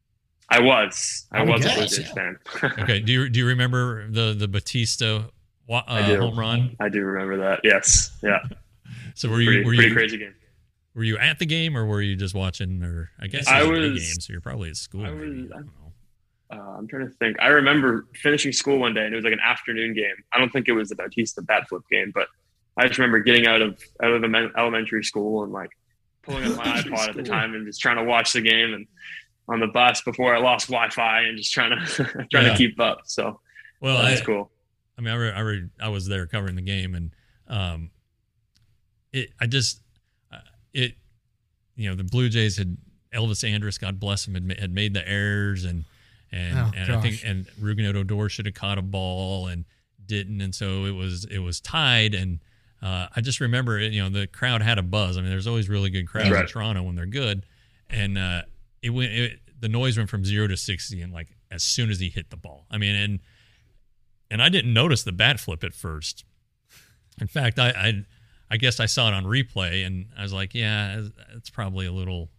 D: I was. I,
B: I
D: was
B: guess,
D: a Blue Jays
B: yeah.
D: fan.
C: Okay. Do you do you remember the the Batista uh,
D: I do.
C: home run?
D: I do remember that. Yes. Yeah.
C: So were you
D: Pretty,
C: were
D: pretty
C: you
D: crazy game.
C: were you at the game or were you just watching? Or I guess
D: I
C: it was a big
D: was-
C: game, so you're probably at school.
D: I
C: maybe.
D: was-
C: I don't know.
D: Uh, I'm trying to think. I remember finishing school one day, and it was like an afternoon game. I don't think it was the Bautista bat flip game, but I just remember getting out of out of the elementary school and like pulling up my iPod at the time and just trying to watch the game, and on the bus before I lost Wi-Fi and just trying to trying
C: Yeah.
D: to keep up. So
C: Well,
D: that's
C: I,
D: cool.
C: I mean, I re, I, re, I was there covering the game, and um, it. I just uh, it. You know, the Blue Jays had Elvis Andrus, God bless him, had, ma- had made the errors, and and
B: Oh,
C: and I think
B: gosh.
C: and Rougned Odor should have caught a ball and didn't, and so it was it was tied, and uh, I just remember it. You know, the crowd had a buzz. I mean, there's always really good crowds
D: Right.
C: in Toronto when they're good, and uh, it went. It, the noise went from zero to sixty, and like as soon as he hit the ball, I mean, and. And I didn't notice the bat flip at first. In fact, I, I, I guess I saw it on replay, and I was like, "Yeah, it's probably a little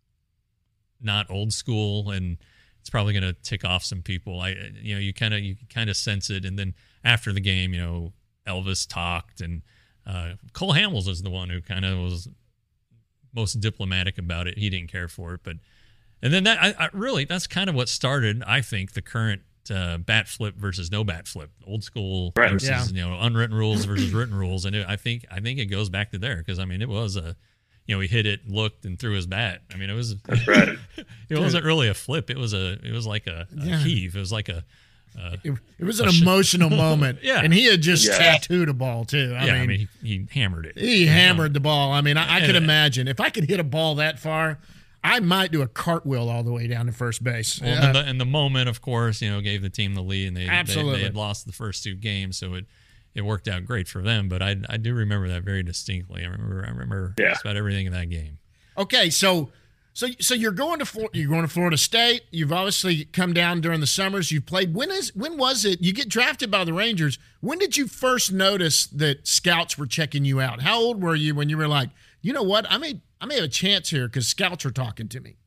C: not old school, and it's probably going to tick off some people." I, you know, you kind of you kind of sense it. And then after the game, you know, Elvis talked, and uh, Cole Hamels was the one who kind of was most diplomatic about it. He didn't care for it, but and then that I, I really that's kind of what started, I think, the current. Uh, bat flip versus no bat flip, old school
D: Right.
C: versus
B: Yeah.
C: you know unwritten rules versus written rules, and it, I think I think it goes back to there because I mean it was a you know he hit it, looked, and threw his bat. I mean it was
D: That's right.
C: it wasn't really a flip. It was a it was like a, a
B: Yeah.
C: heave. It was like a uh,
B: It, it was an
C: A sh-
B: emotional moment.
C: Yeah.
B: And he had just
D: Yeah.
B: tattooed a ball, too. I
C: yeah.
B: mean,
C: I mean he, he hammered it.
B: he hammered the ball. I mean, I, I could
C: And-
B: imagine if I could hit a ball that far, I might do a cartwheel all the way down to first base.
C: Well,
B: Yeah.
C: and, the, and the moment, of course, you know, gave the team the lead, and they they,
B: Absolutely.
C: they had lost the first two games, so it it worked out great for them. But I I do remember that very distinctly. I remember I remember
D: Yeah.
C: just about everything in that game.
B: Okay, so so so you're going to Flor- you're going to Florida State. You've obviously come down during the summers. You've played. When is when was it? You get drafted by the Rangers. When did you first notice that scouts were checking you out? How old were you when you were like, you know what, I may I may have a chance here because scouts are talking to me.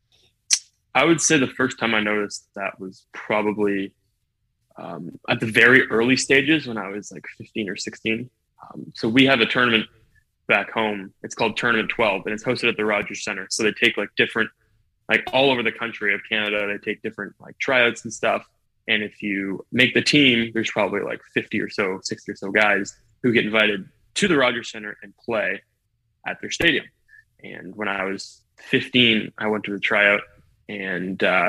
D: I would say the first time I noticed that was probably um, at the very early stages when I was like fifteen or sixteen. Um, so we have a tournament back home. It's called Tournament twelve, and it's hosted at the Rogers Center. So they take like different, like all over the country of Canada, they take different like tryouts and stuff. And if you make the team, there's probably like fifty or so, sixty or so guys who get invited to the Rogers Center and play at their stadium. And when I was fifteen, I went to the tryout and uh,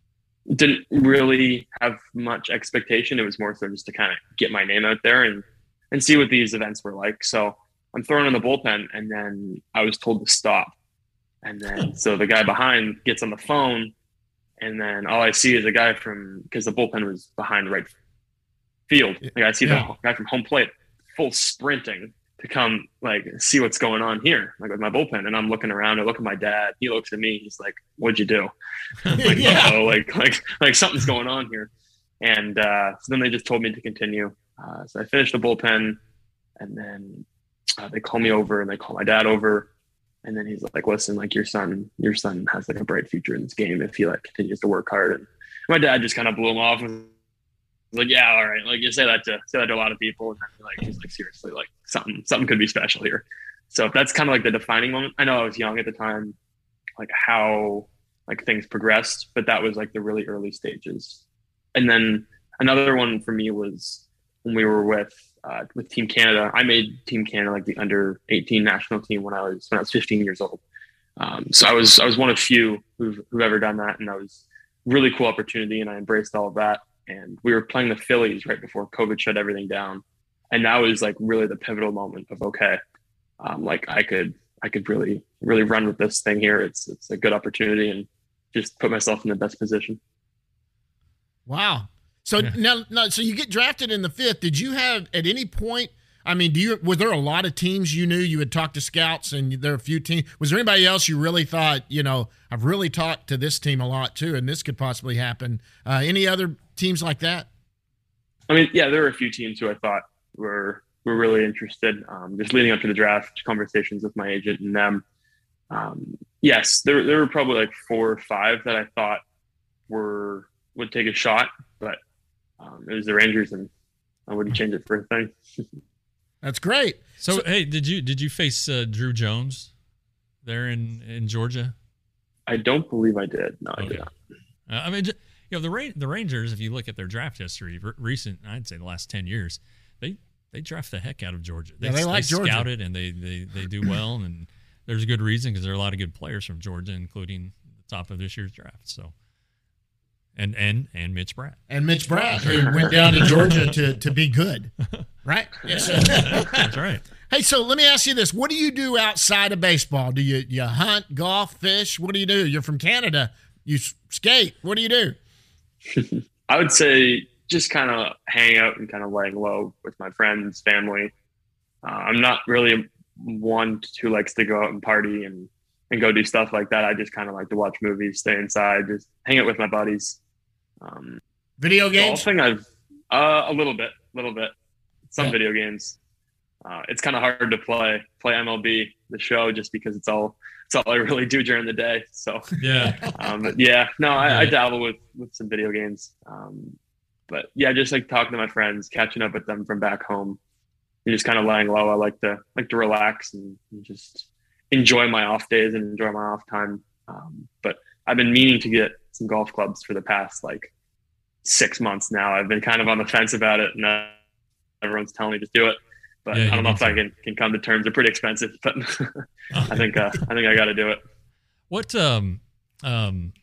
D: didn't really have much expectation. It was more so just to kind of get my name out there and, and see what these events were like. So I'm thrown in the bullpen, and then I was told to stop. And then so the guy behind gets on the phone, and then all I see is a guy from, because the bullpen was behind right field. Like I see
B: Yeah.
D: the guy from home plate full sprinting to come like see what's going on here, like with my bullpen. And I'm looking around, I look at my dad, he looks at me, he's like, "What'd you do?" I'm like,
B: Yeah.
D: oh, like, like, like something's going on here. And uh, so then they just told me to continue. Uh, so I finished the bullpen, and then uh, they call me over and they call my dad over. And then he's like, "Listen, like your son, your son has like a bright future in this game if he like continues to work hard." And my dad just kind of blew him off and was like, "Yeah, all right. Like you say that to say that to a lot of people." And then like he's like, "Seriously, like something something could be special here." So that's kind of like the defining moment. I know I was young at the time, like how like things progressed, but that was like the really early stages. And then another one for me was when we were with uh, with Team Canada. I made Team Canada like the under eighteen national team when I was when I was fifteen years old. Um, so I was I was one of few who've, who've ever done that, and that was a really cool opportunity, and I embraced all of that. And we were playing the Phillies right before COVID shut everything down, and that was like really the pivotal moment of okay, um, like I could I could really really run with this thing here. It's it's a good opportunity, and just put myself in the best position.
B: Wow. So
C: Yeah.
B: now, now, so you get drafted in the fifth. Did you have at any point? I mean, do you was there a lot of teams you knew you had talked to scouts, and there are a few teams? Was there anybody else you really thought, you know, I've really talked to this team a lot too, and this could possibly happen? Uh, any other teams like that?
D: I mean, yeah, there were a few teams who I thought were were really interested. Um, just leading up to the draft, conversations with my agent and them. Um, yes, there there were probably like four or five that I thought were would take a shot, but um, it was the Rangers, and I wouldn't change it for a thing.
B: That's great.
C: So, so hey, did you did you face uh, Drew Jones there in, in Georgia?
D: I don't believe I did. No,
C: okay.
D: I did not.
C: Uh, I mean, you know, the Ra- the Rangers, if you look at their draft history, re- recent, I'd say the last ten years, they they draft the heck out of Georgia. They,
B: yeah, they like
C: they
B: Georgia.
C: scout it, and they, they, they do well, and there's a good reason because there are a lot of good players from Georgia, including the top of this year's draft. So, and and and Mitch Bratt.
B: And Mitch Bratt, who went down to Georgia to, to be good, right?
C: Yes. That's right.
B: Hey, so let me ask you this. What do you do outside of baseball? Do you, you hunt, golf, fish? What do you do? You're from Canada. You skate. What do you do?
D: I would say just kind of hang out and kind of laying low with my friends, family. Uh, I'm not really one who likes to go out and party and, and go do stuff like that. I just kind of like to watch movies, stay inside, just hang out with my buddies. Um,
B: video games?
D: Golfing, I've uh, a little bit, a little bit. Some
B: yeah.
D: video games. Uh, it's kind of hard to play play M L B, the show, just because it's all it's all I really do during the day. So
C: yeah,
D: um, but yeah, no, I, I dabble with with some video games. Um, but yeah, just like talking to my friends, catching up with them from back home, and just kind of lying low. I like to like to relax and, and just enjoy my off days and enjoy my off time. Um, but I've been meaning to get some golf clubs for the past like six months now. I've been kind of on the fence about it, and uh, everyone's telling me just do it. But
C: yeah,
D: I don't know if to. I can, can come to terms. They're pretty expensive, but I think uh, I think I got to do it.
C: What um um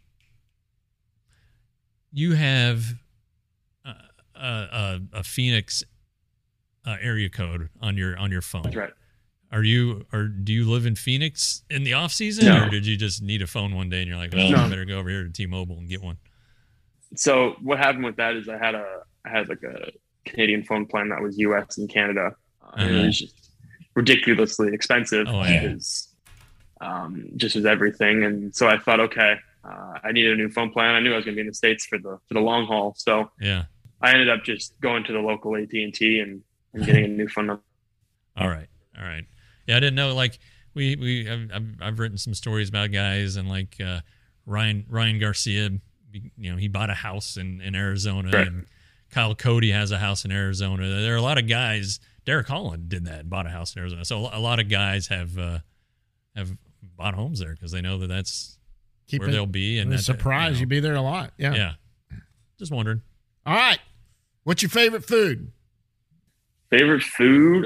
C: you have uh, a, a Phoenix uh, area code on your on your phone.
D: That's right.
C: Are you or do you live in Phoenix in the off season,
D: no.
C: or did you just need a phone one day and you're like, well,
D: no.
C: I better go over here to T-Mobile and get one?
D: So what happened with that is I had a I had like a Canadian phone plan that was U S and Canada. Uh, uh-huh. It was just ridiculously expensive
C: oh, yeah.
D: because um, just was everything. And so I thought, okay, uh, I needed a new phone plan. I knew I was going to be in the States for the for the long haul. So
C: yeah,
D: I ended up just going to the local A T and T and, and getting a new phone number.
C: All right, all right. Yeah, I didn't know. Like we we I've, I've, I've written some stories about guys and like uh, Ryan Ryan Garcia. You know, he bought a house in in Arizona,
D: right.
C: and Kyle Cody has a house in Arizona. There are a lot of guys. Derek Holland did that, bought a house in Arizona. So a lot of guys have uh, have bought homes there because they know that that's Keep where it, they'll be. And
B: that's a surprise, you know, you'd be there a lot. Yeah.
C: Yeah. Just wondering.
B: All right. What's your favorite food?
D: Favorite food?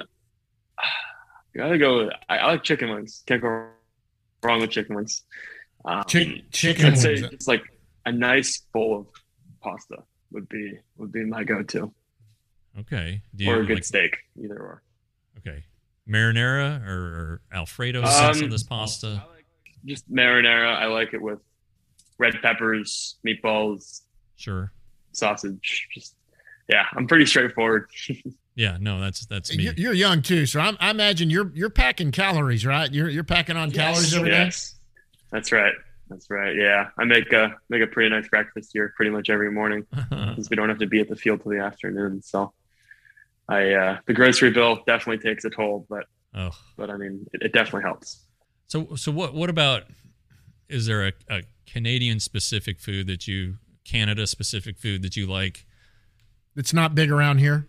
D: You gotta go with, I, I like chicken wings. Can't go wrong with chicken wings. Um,
B: Chick, chicken
D: I'd
B: wings.
D: say it's like a nice bowl of pasta would be would be my go-to.
C: Okay. Do you,
D: or a good
C: like,
D: steak, either or.
C: Okay. Marinara or, or Alfredo sauce
D: um,
C: on this pasta?
D: I like just marinara. I like it with red peppers, meatballs,
C: sure,
D: sausage. Just yeah, I'm pretty straightforward.
C: Yeah, no, that's that's me.
B: You're, you're young too, so I'm, I imagine you're you're packing calories, right? You're you're packing on
D: yes,
B: calories every
D: yes. day. That's right. That's right. Yeah, I make a make a pretty nice breakfast here pretty much every morning because we don't have to be at the field till the afternoon. So, I uh, the grocery bill definitely takes a toll, but
C: oh.
D: but I mean it, it definitely helps.
C: So so what what about? Is there a, a Canadian specific food that you Canada specific food that you like?
B: It's not big around here.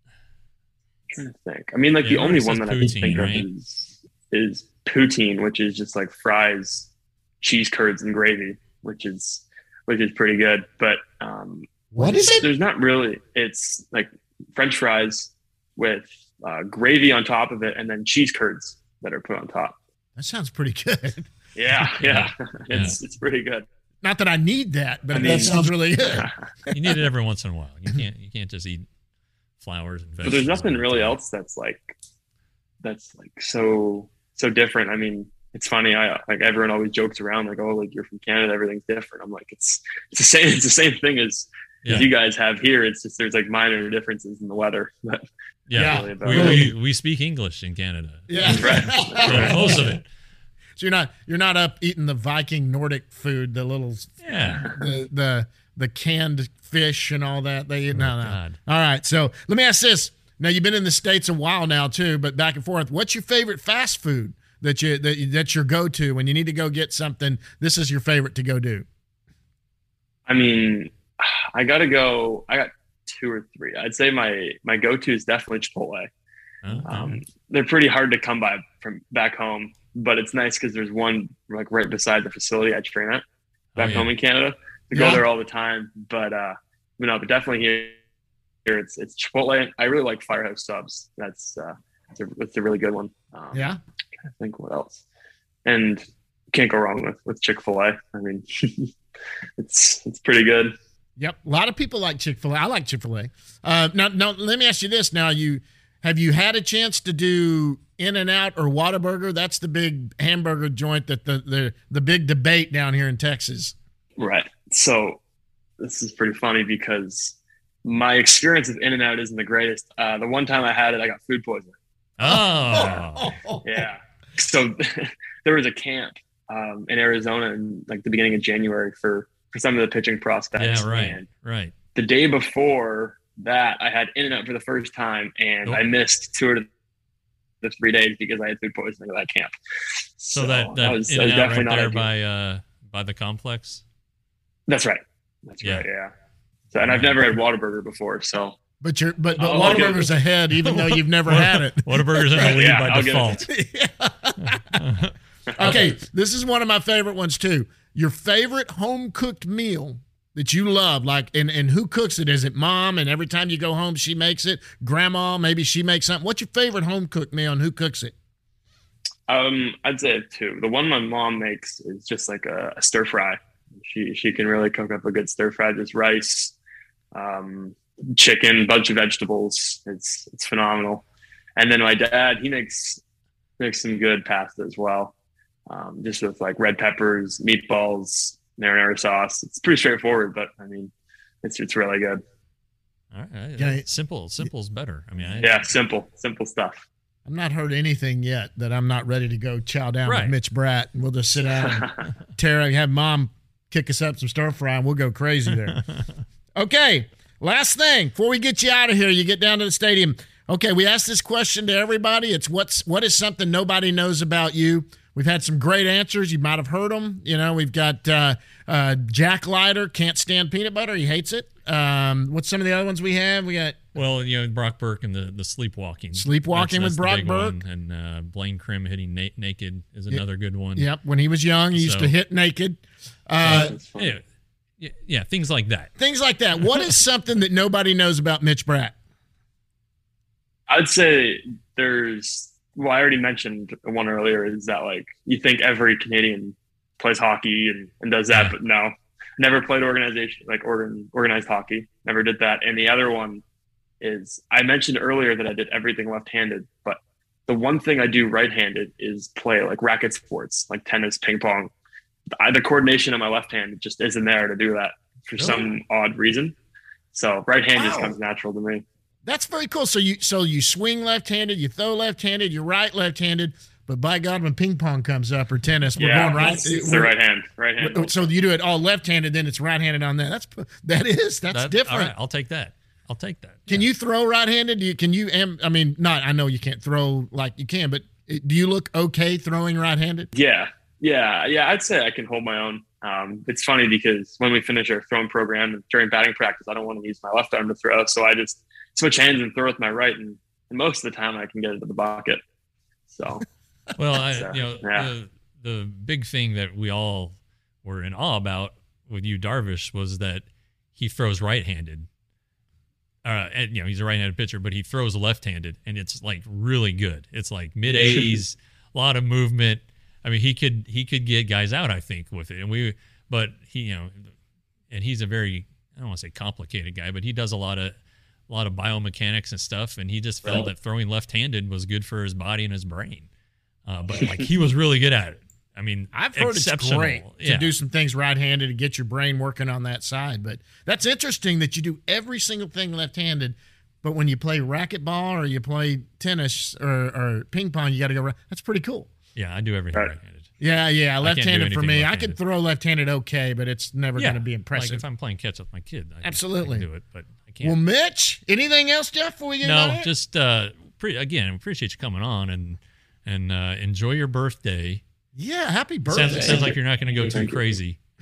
D: I'm trying to think. I mean, like
C: yeah,
D: the only one that
C: poutine,
D: I can think
C: right?
D: of is is poutine, which is just like fries, cheese curds, and gravy, which is which is pretty good. But um,
B: what is it?
D: There's not really. It's like French fries with uh, gravy on top of it, and then cheese curds that are put on top.
B: That sounds pretty good.
D: Yeah, yeah, it's yeah. it's pretty good.
B: Not that I need that, but
D: I
B: I
D: mean,
B: that sounds really good.
C: You need it every once in a while. You can't you can't just eat flowers and vegetables.
D: But there's nothing really else that's like that's like so so different. I mean, it's funny. I like everyone always jokes around like, oh, like you're from Canada, everything's different. I'm like, it's it's the same. It's the same thing as, yeah. as you guys have here. It's just there's like minor differences in the weather. But
C: yeah,
D: really
C: we, we we speak English in Canada.
B: Yeah,
D: right.
C: right. Most of it.
B: So you're not you're not up eating the Viking Nordic food, the little
C: yeah
B: the the, the canned fish and all that. They eat.
C: Oh,
B: no, no.
C: God.
B: All right. So let me ask this. Now you've been in the States a while now too, but back and forth. What's your favorite fast food that you that that's your go to when you need to go get something? This is your favorite to go do.
D: I mean, I got to go. I got two or three. I'd say my my go to is definitely Chipotle.
C: Okay.
D: Um, they're pretty hard to come by from back home, but it's nice because there's one like right beside the facility I train at back
C: Oh, yeah.
D: home in Canada. We
B: Yeah.
D: go there all the time, but uh, you know, but definitely here, here it's it's Chipotle. I really like Firehouse subs. That's uh, it's a, it's a really good one. Um,
B: Yeah.
D: I think what else, and can't go wrong with with Chick-fil-A. I mean, it's it's pretty good.
B: Yep. A lot of people like Chick-fil-A. I like Chick-fil-A. Uh, now, now, let me ask you this. Now, you have you had a chance to do In-N-Out or Whataburger? That's the big hamburger joint that the, the, the big debate down here in Texas.
D: Right. So this is pretty funny because my experience with In-N-Out isn't the greatest. Uh, the one time I had it, I got food poisoning.
C: Oh,
D: Yeah. So there was a camp um, in Arizona in like the beginning of January for, for some of the pitching prospects.
C: yeah, right,
D: And
C: right.
D: the day before that, I had In-N-Out for the first time, and
C: Nope.
D: I missed two of the three days because I had food poisoning at that camp.
C: So, that that
D: was,
C: in
D: that was
C: and out
D: definitely
C: right
D: not
C: there
D: ideal.
C: by uh by the complex.
D: That's right. That's
C: Yeah.
D: right. Yeah. So, and I've never had Whataburger before, so.
B: But you're but, but
D: Oh, okay.
B: Whataburger's ahead, even though you've never had it.
C: Whataburger's in the
D: Right,
C: lead
D: yeah,
C: by
D: I'll give
C: default.
D: it
B: Okay, this is one of my favorite ones too. Your favorite home cooked meal that you love, like, and, and who cooks it? Is it mom? And every time you go home, she makes it. Grandma, maybe she makes something. What's your favorite home cooked meal, and who cooks it?
D: Um, I'd say two. The one my mom makes is just like a, a stir fry. She she can really cook up a good stir fry. Just rice, um, chicken, bunch of vegetables. It's it's phenomenal. And then my dad, he makes makes some good pasta as well. Um, just with like red peppers, meatballs, marinara sauce. It's pretty straightforward, but I mean, it's it's really good.
C: All right,
B: Yeah.
C: simple, simple's better. I mean, I,
D: Yeah, simple, simple stuff.
B: I've not heard anything yet that I'm not ready to go chow down
C: Right.
B: with Mitch Bratt, and we'll just sit down and tear, have mom kick us up some stir fry, and we'll go crazy there. Okay, last thing before we get you out of here, you get down to the stadium. Okay, we asked this question to everybody. It's what's what is something nobody knows about you? We've had some great answers. You might have heard them. You know, we've got uh, uh, Jack Leiter, can't stand peanut butter. He hates it. Um, what's some of the other ones we have? We got
C: well, you know, Brock Burke and the the sleepwalking.
B: Sleepwalking with
C: That's- that's the
B: Brock
C: big
B: Burke.
C: one. And uh, Blaine Krim hitting na- naked is another good one.
B: Yep, when he was young, he used
C: So-
B: to hit naked. Uh,
D: It's fun.
C: Yeah, yeah, yeah, things like that.
B: things like that. What is something that nobody knows about Mitch Bratt?
D: I'd say there's, well, I already mentioned one earlier, is that like you think every Canadian plays hockey and, and does that,
C: Yeah.
D: but no, never played organization, like organ, organized hockey, never did that. And the other one is, I mentioned earlier that I did everything left-handed, but the one thing I do right-handed is play like racket sports, like tennis, ping pong. I, the coordination on my left hand just isn't there to do that for some odd reason. So right hand just
B: Wow.
D: comes natural to me.
B: That's very cool. So you so you swing left-handed, you throw left-handed, you right left-handed, but by God, when ping pong comes up or tennis, we're
D: Yeah,
B: going right.
D: it's, it's the
B: we're-
D: right hand, right hand.
B: So you do it all left-handed, then it's right-handed on that. That's that is that's
C: That-
B: different.
C: All right, I'll take that. I'll take that.
B: Can
C: Yeah.
B: you throw right-handed? Do you, can you? am- I mean, not. I know you can't throw like you can, but do you look okay throwing right-handed?
D: Yeah, yeah, yeah. I'd say I can hold my own. Um, it's funny because when we finish our throwing program during batting practice, I don't want to use my left arm to throw, so I just switch hands and throw with my right, and, and most of the time I can get it to the bucket. So
C: Well, I,
D: So,
C: you know,
D: yeah.
C: the, the big thing that we all were in awe about with you, Darvish, was that he throws right-handed. Uh, and, you know, he's a right-handed pitcher, but he throws left-handed, and it's like really good. It's like mid eighties, a lot of movement. I mean, he could he could get guys out, I think, with it. And we, but he, you know, and he's a very, I don't want to say complicated guy, but he does a lot of a lot of biomechanics and stuff, and he just felt
D: Right.
C: that throwing left-handed was good for his body and his brain. Uh, but like he was really good at it. I mean,
B: I've heard it's
C: exceptional.
B: great to
C: Yeah.
B: do some things right-handed to get your brain working on that side. But that's interesting that you do every single thing left-handed. But when you play racquetball or you play tennis or, or ping pong, you got to go right. That's pretty cool.
C: Yeah, I do everything
D: Right.
C: right-handed.
B: Yeah, yeah,
C: I can't do
B: left-handed for
C: anything
B: me. I
C: left-handed.
B: could throw left-handed okay, but it's never
C: Yeah,
B: going to be
C: like
B: impressive.
C: if I'm playing catch up with my kid, I can-
B: Absolutely.
C: I can do it, but I can't.
B: Well, Mitch, anything else, Jeff? Before we get out of
C: no,
B: here?
C: just uh, pre- again, I appreciate you coming on and and uh, enjoy your birthday.
B: yeah, happy birthday.
C: Sounds, sounds like you're not going to go too
D: Thank you.
C: crazy.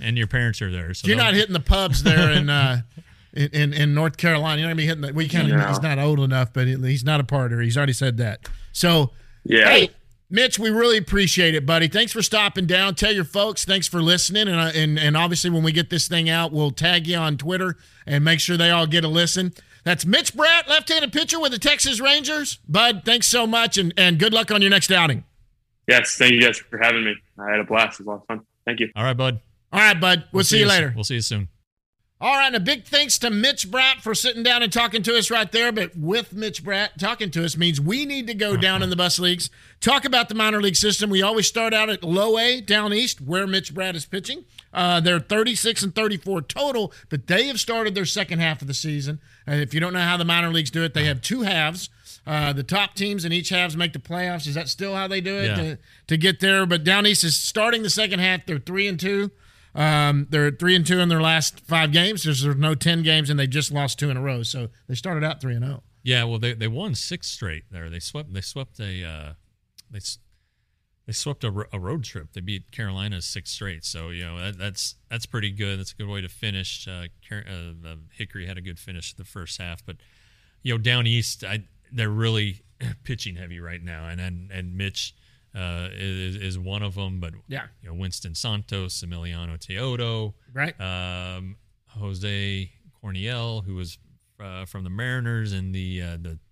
C: and your parents are there. So
B: you're
C: don't-
B: not hitting the pubs there in uh, in, in in North Carolina. You're not gonna be hitting the. We kind of
D: No.
B: he's not old enough, but he's not a partier. He's already said that. So
D: Yeah.
B: hey, Mitch, we really appreciate it, buddy. Thanks for stopping down. Tell your folks thanks for listening, and uh, and and obviously when we get this thing out, we'll tag you on Twitter and make sure they all get a listen. That's Mitch Bratt, left-handed pitcher with the Texas Rangers. Bud, thanks so much, and, and good luck on your next outing.
D: Yes. Thank you guys for having me. I had a blast. It was a lot of fun. Thank you.
C: All right, bud.
B: All right, bud. We'll, see, you later.
C: We'll see you soon.
B: All right, and a big thanks to Mitch Bratt for sitting down and talking to us right there. But with Mitch Bratt talking to us means we need to go down in the bus leagues, talk about the minor league system. We always start out at low A down east where Mitch Bratt is pitching. Uh, they're thirty-six and thirty-four total, but they have started their second half of the season. And if you don't know how the minor leagues do it, they have two halves. Uh, the top teams in each halves make the playoffs. Is that still how they do it
C: Yeah.
B: to, to get there? But down east is starting the second half. They're three and two. Um, they're three and two in their last five games. There's, there's no ten games, and they just lost two in a row. So they started out three and zero.
C: Yeah, well, they they won six straight there. They swept they swept a uh, they s- they swept a, ro- a road trip. They beat Carolina six straight. So you know that, that's that's pretty good. That's a good way to finish. Uh, Car- uh, uh, Hickory had a good finish the first half, but you know down east, I, they're really pitching heavy right now, and and and Mitch. Uh, is is one of them, but
B: Yeah.
C: you know Winston Santos, Emiliano Teodo,
B: Right.
C: um, Jose Corniel, who was uh, from the Mariners in the uh, the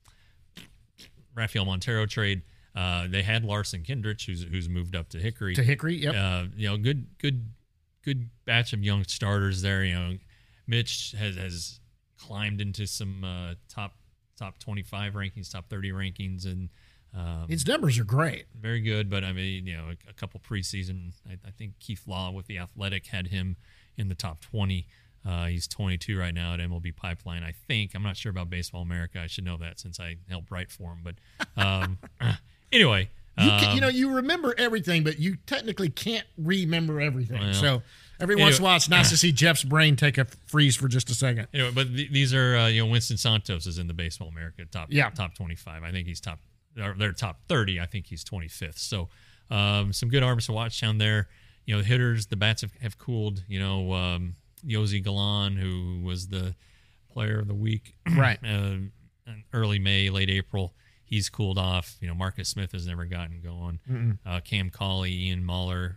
C: Rafael Montero trade. Uh, they had Larson Kindrich, who's who's moved up to Hickory.
B: To Hickory, yep.
C: Uh, you know, good good good batch of young starters there. You know, Mitch has has climbed into some uh, top top twenty-five rankings, top thirty rankings, and um,
B: His numbers are great.
C: very good. But I mean, you know, a, a couple preseason. I, I think Keith Law with the Athletic had him in the top twenty. Uh, he's twenty-two right now at M L B Pipeline. I think I'm not sure about Baseball America. I should know that since I helped write for him. But um, anyway,
B: You, can,
C: um,
B: you know, you remember everything, but you technically can't remember everything.
C: Well,
B: so every once in a while, it's nice to see Jeff's brain take a freeze for just a second.
C: Anyway, but th- these are uh, you know Winston Santos is in the Baseball America top
B: Yeah.
C: top twenty-five. I think he's top. Or they're top thirty. I think he's twenty-fifth. So um, some good arms to watch down there. You know, the hitters, the bats have, have cooled. You know, um, Yosi Galan, who was the player of the week,
B: Right.
C: uh, in early May, late April. He's cooled off. You know, Marcus Smith has never gotten going. Uh, Cam Cauley, Ian Muller,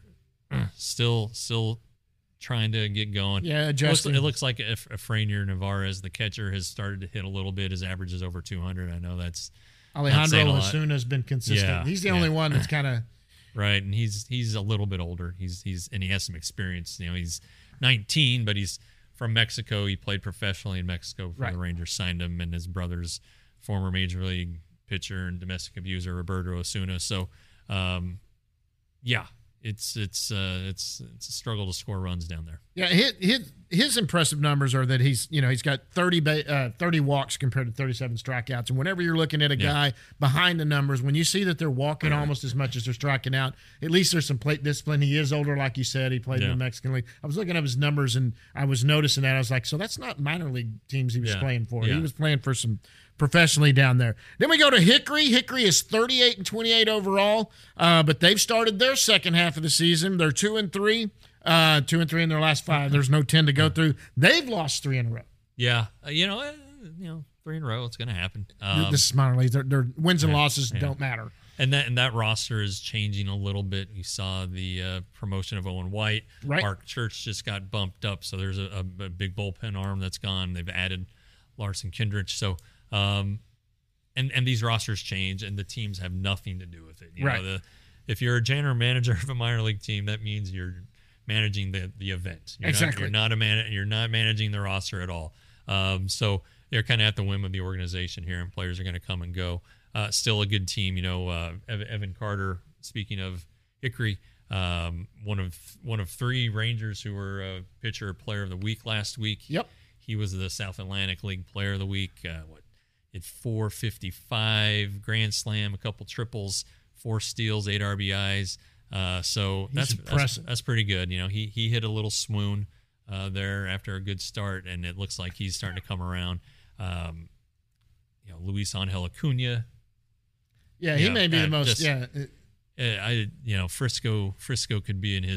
C: still still trying to get going.
B: Yeah,
C: It looks,
B: adjusting.
C: it looks like if Efrainier Navarez, the catcher, has started to hit a little bit. His average is over two hundred. I know that's saying
B: Alejandro
C: a lot.
B: Osuna has been consistent.
C: Yeah,
B: He's the
C: yeah.
B: only one that's kind of
C: right, and he's he's a little bit older. He's he's and he has some experience. You know, he's nineteen, but he's from Mexico. He played professionally in Mexico before
B: Right.
C: the Rangers signed him, and his brother's former major league pitcher and domestic abuser Roberto Osuna. So, um, yeah, it's it's uh, it's it's a struggle to score runs down there.
B: yeah. His, his his impressive numbers are that he's you know he's got thirty ba- uh, thirty walks compared to thirty-seven strikeouts. And whenever you're looking at a
C: Yeah.
B: guy behind the numbers, when you see that they're walking almost as much as they're striking out, at least there's some plate discipline. He is older, like you said. He played in
C: Yeah.
B: the Mexican League. I was looking up his numbers and I was noticing that. I was like, so that's not minor league teams he was
C: Yeah.
B: playing for.
C: Yeah.
B: He was playing for some professionally down there. Then we go to Hickory. Hickory is thirty-eight and twenty-eight overall, uh, but they've started their second half of the season. They're two and three, uh, two and three in their last five. There's no ten to go through. They've lost three in a row.
C: Yeah, uh, you know, uh, you know, three in a row, it's going to happen. Um,
B: this is minor leagues. Their, their wins and
C: yeah,
B: losses
C: yeah.
B: don't matter.
C: And that and that roster is changing a little bit. You saw the uh, promotion of Owen White.
B: Right.
C: Mark Church just got bumped up, so there's a, a, a big bullpen arm that's gone. They've added Larson Kindrich. So, um, and and these rosters change, and the teams have nothing to do with it. You
B: Right.
C: know, the, if you're a general manager of a minor league team, that means you're managing the the event. You're
B: Exactly.
C: Not, you're not a man. You're not managing the roster at all. Um, so they're kind of at the whim of the organization here, and players are going to come and go. Uh, still a good team, you know. Uh, Ev- Evan Carter. Speaking of Hickory, um, one of one of three Rangers who were uh, pitcher player of the week last week.
B: Yep.
C: He was the South Atlantic League Player of the Week. Uh, what? Hit four fifty-five, grand slam, a couple triples, four steals, eight R B Is. Uh, so
B: He's
C: that's, that's
B: impressive.
C: that's pretty good. You know, he he hit a little swoon uh, there after a good start, and it looks like he's starting to come around. Um, you know, Luis Angel Acuna.
B: Yeah, he
C: Yeah,
B: may be
C: uh,
B: the most.
C: just-
B: yeah, uh,
C: Uh, I you know Frisco Frisco could be in his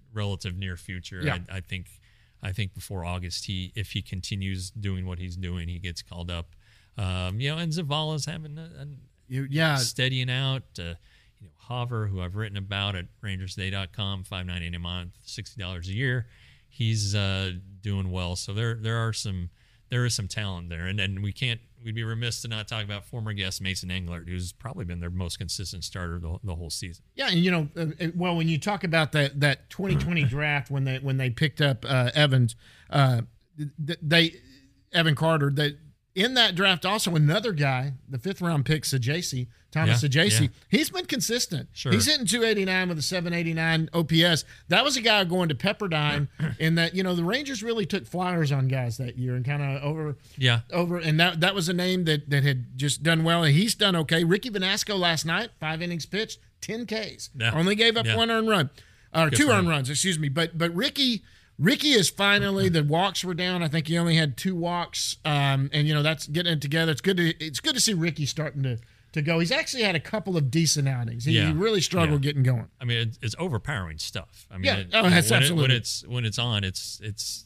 C: relative near future.
B: Yeah.
C: I, I think I think before August, he if he continues doing what he's doing, he gets called up. Um, you know, and Zavala's having a, a
B: You, yeah.
C: steadying out. Uh, you know, Hover, who I've written about at Rangers Day dot com, five ninety eight a month, sixty dollars a year. He's uh, doing well. So there there are some there is some talent there, and and we can't we'd be remiss to not talk about former guest Mason Englert, who's probably been their most consistent starter the, the whole season.
B: Yeah, and you know, uh, well, when you talk about that that twenty twenty draft when they when they picked up uh, Evans, uh, they Evan Carter, they in that draft also another guy, the fifth round pick, Sajaci, Thomas
C: Yeah,
B: Sajaci.
C: yeah.
B: He's been consistent.
C: Sure.
B: He's hitting two eighty-nine with a seven eighty-nine O P S. That was a guy going to Pepperdine in that, you know, the Rangers really took flyers on guys that year and kind of over
C: Yeah.
B: over and that that was a name that that had just done well, and he's done okay. Ricky Vanasco last night, five innings pitched, ten Ks.
C: Yeah.
B: Only gave up
C: Yeah.
B: one earned run. Or
C: Good
B: two
C: for
B: earned
C: him.
B: runs, excuse me. But but Ricky Ricky is finally, the walks were down. I think he only had two walks. Um, and you know, that's getting it together. It's good to it's good to see Ricky starting to to go. He's actually had a couple of decent outings. He,
C: Yeah.
B: he really struggled
C: Yeah.
B: getting going.
C: I mean, it's, it's overpowering stuff. I mean,
B: Yeah.
C: it,
B: Oh, that's
C: when, it,
B: absolutely.
C: when it's when it's on, it's it's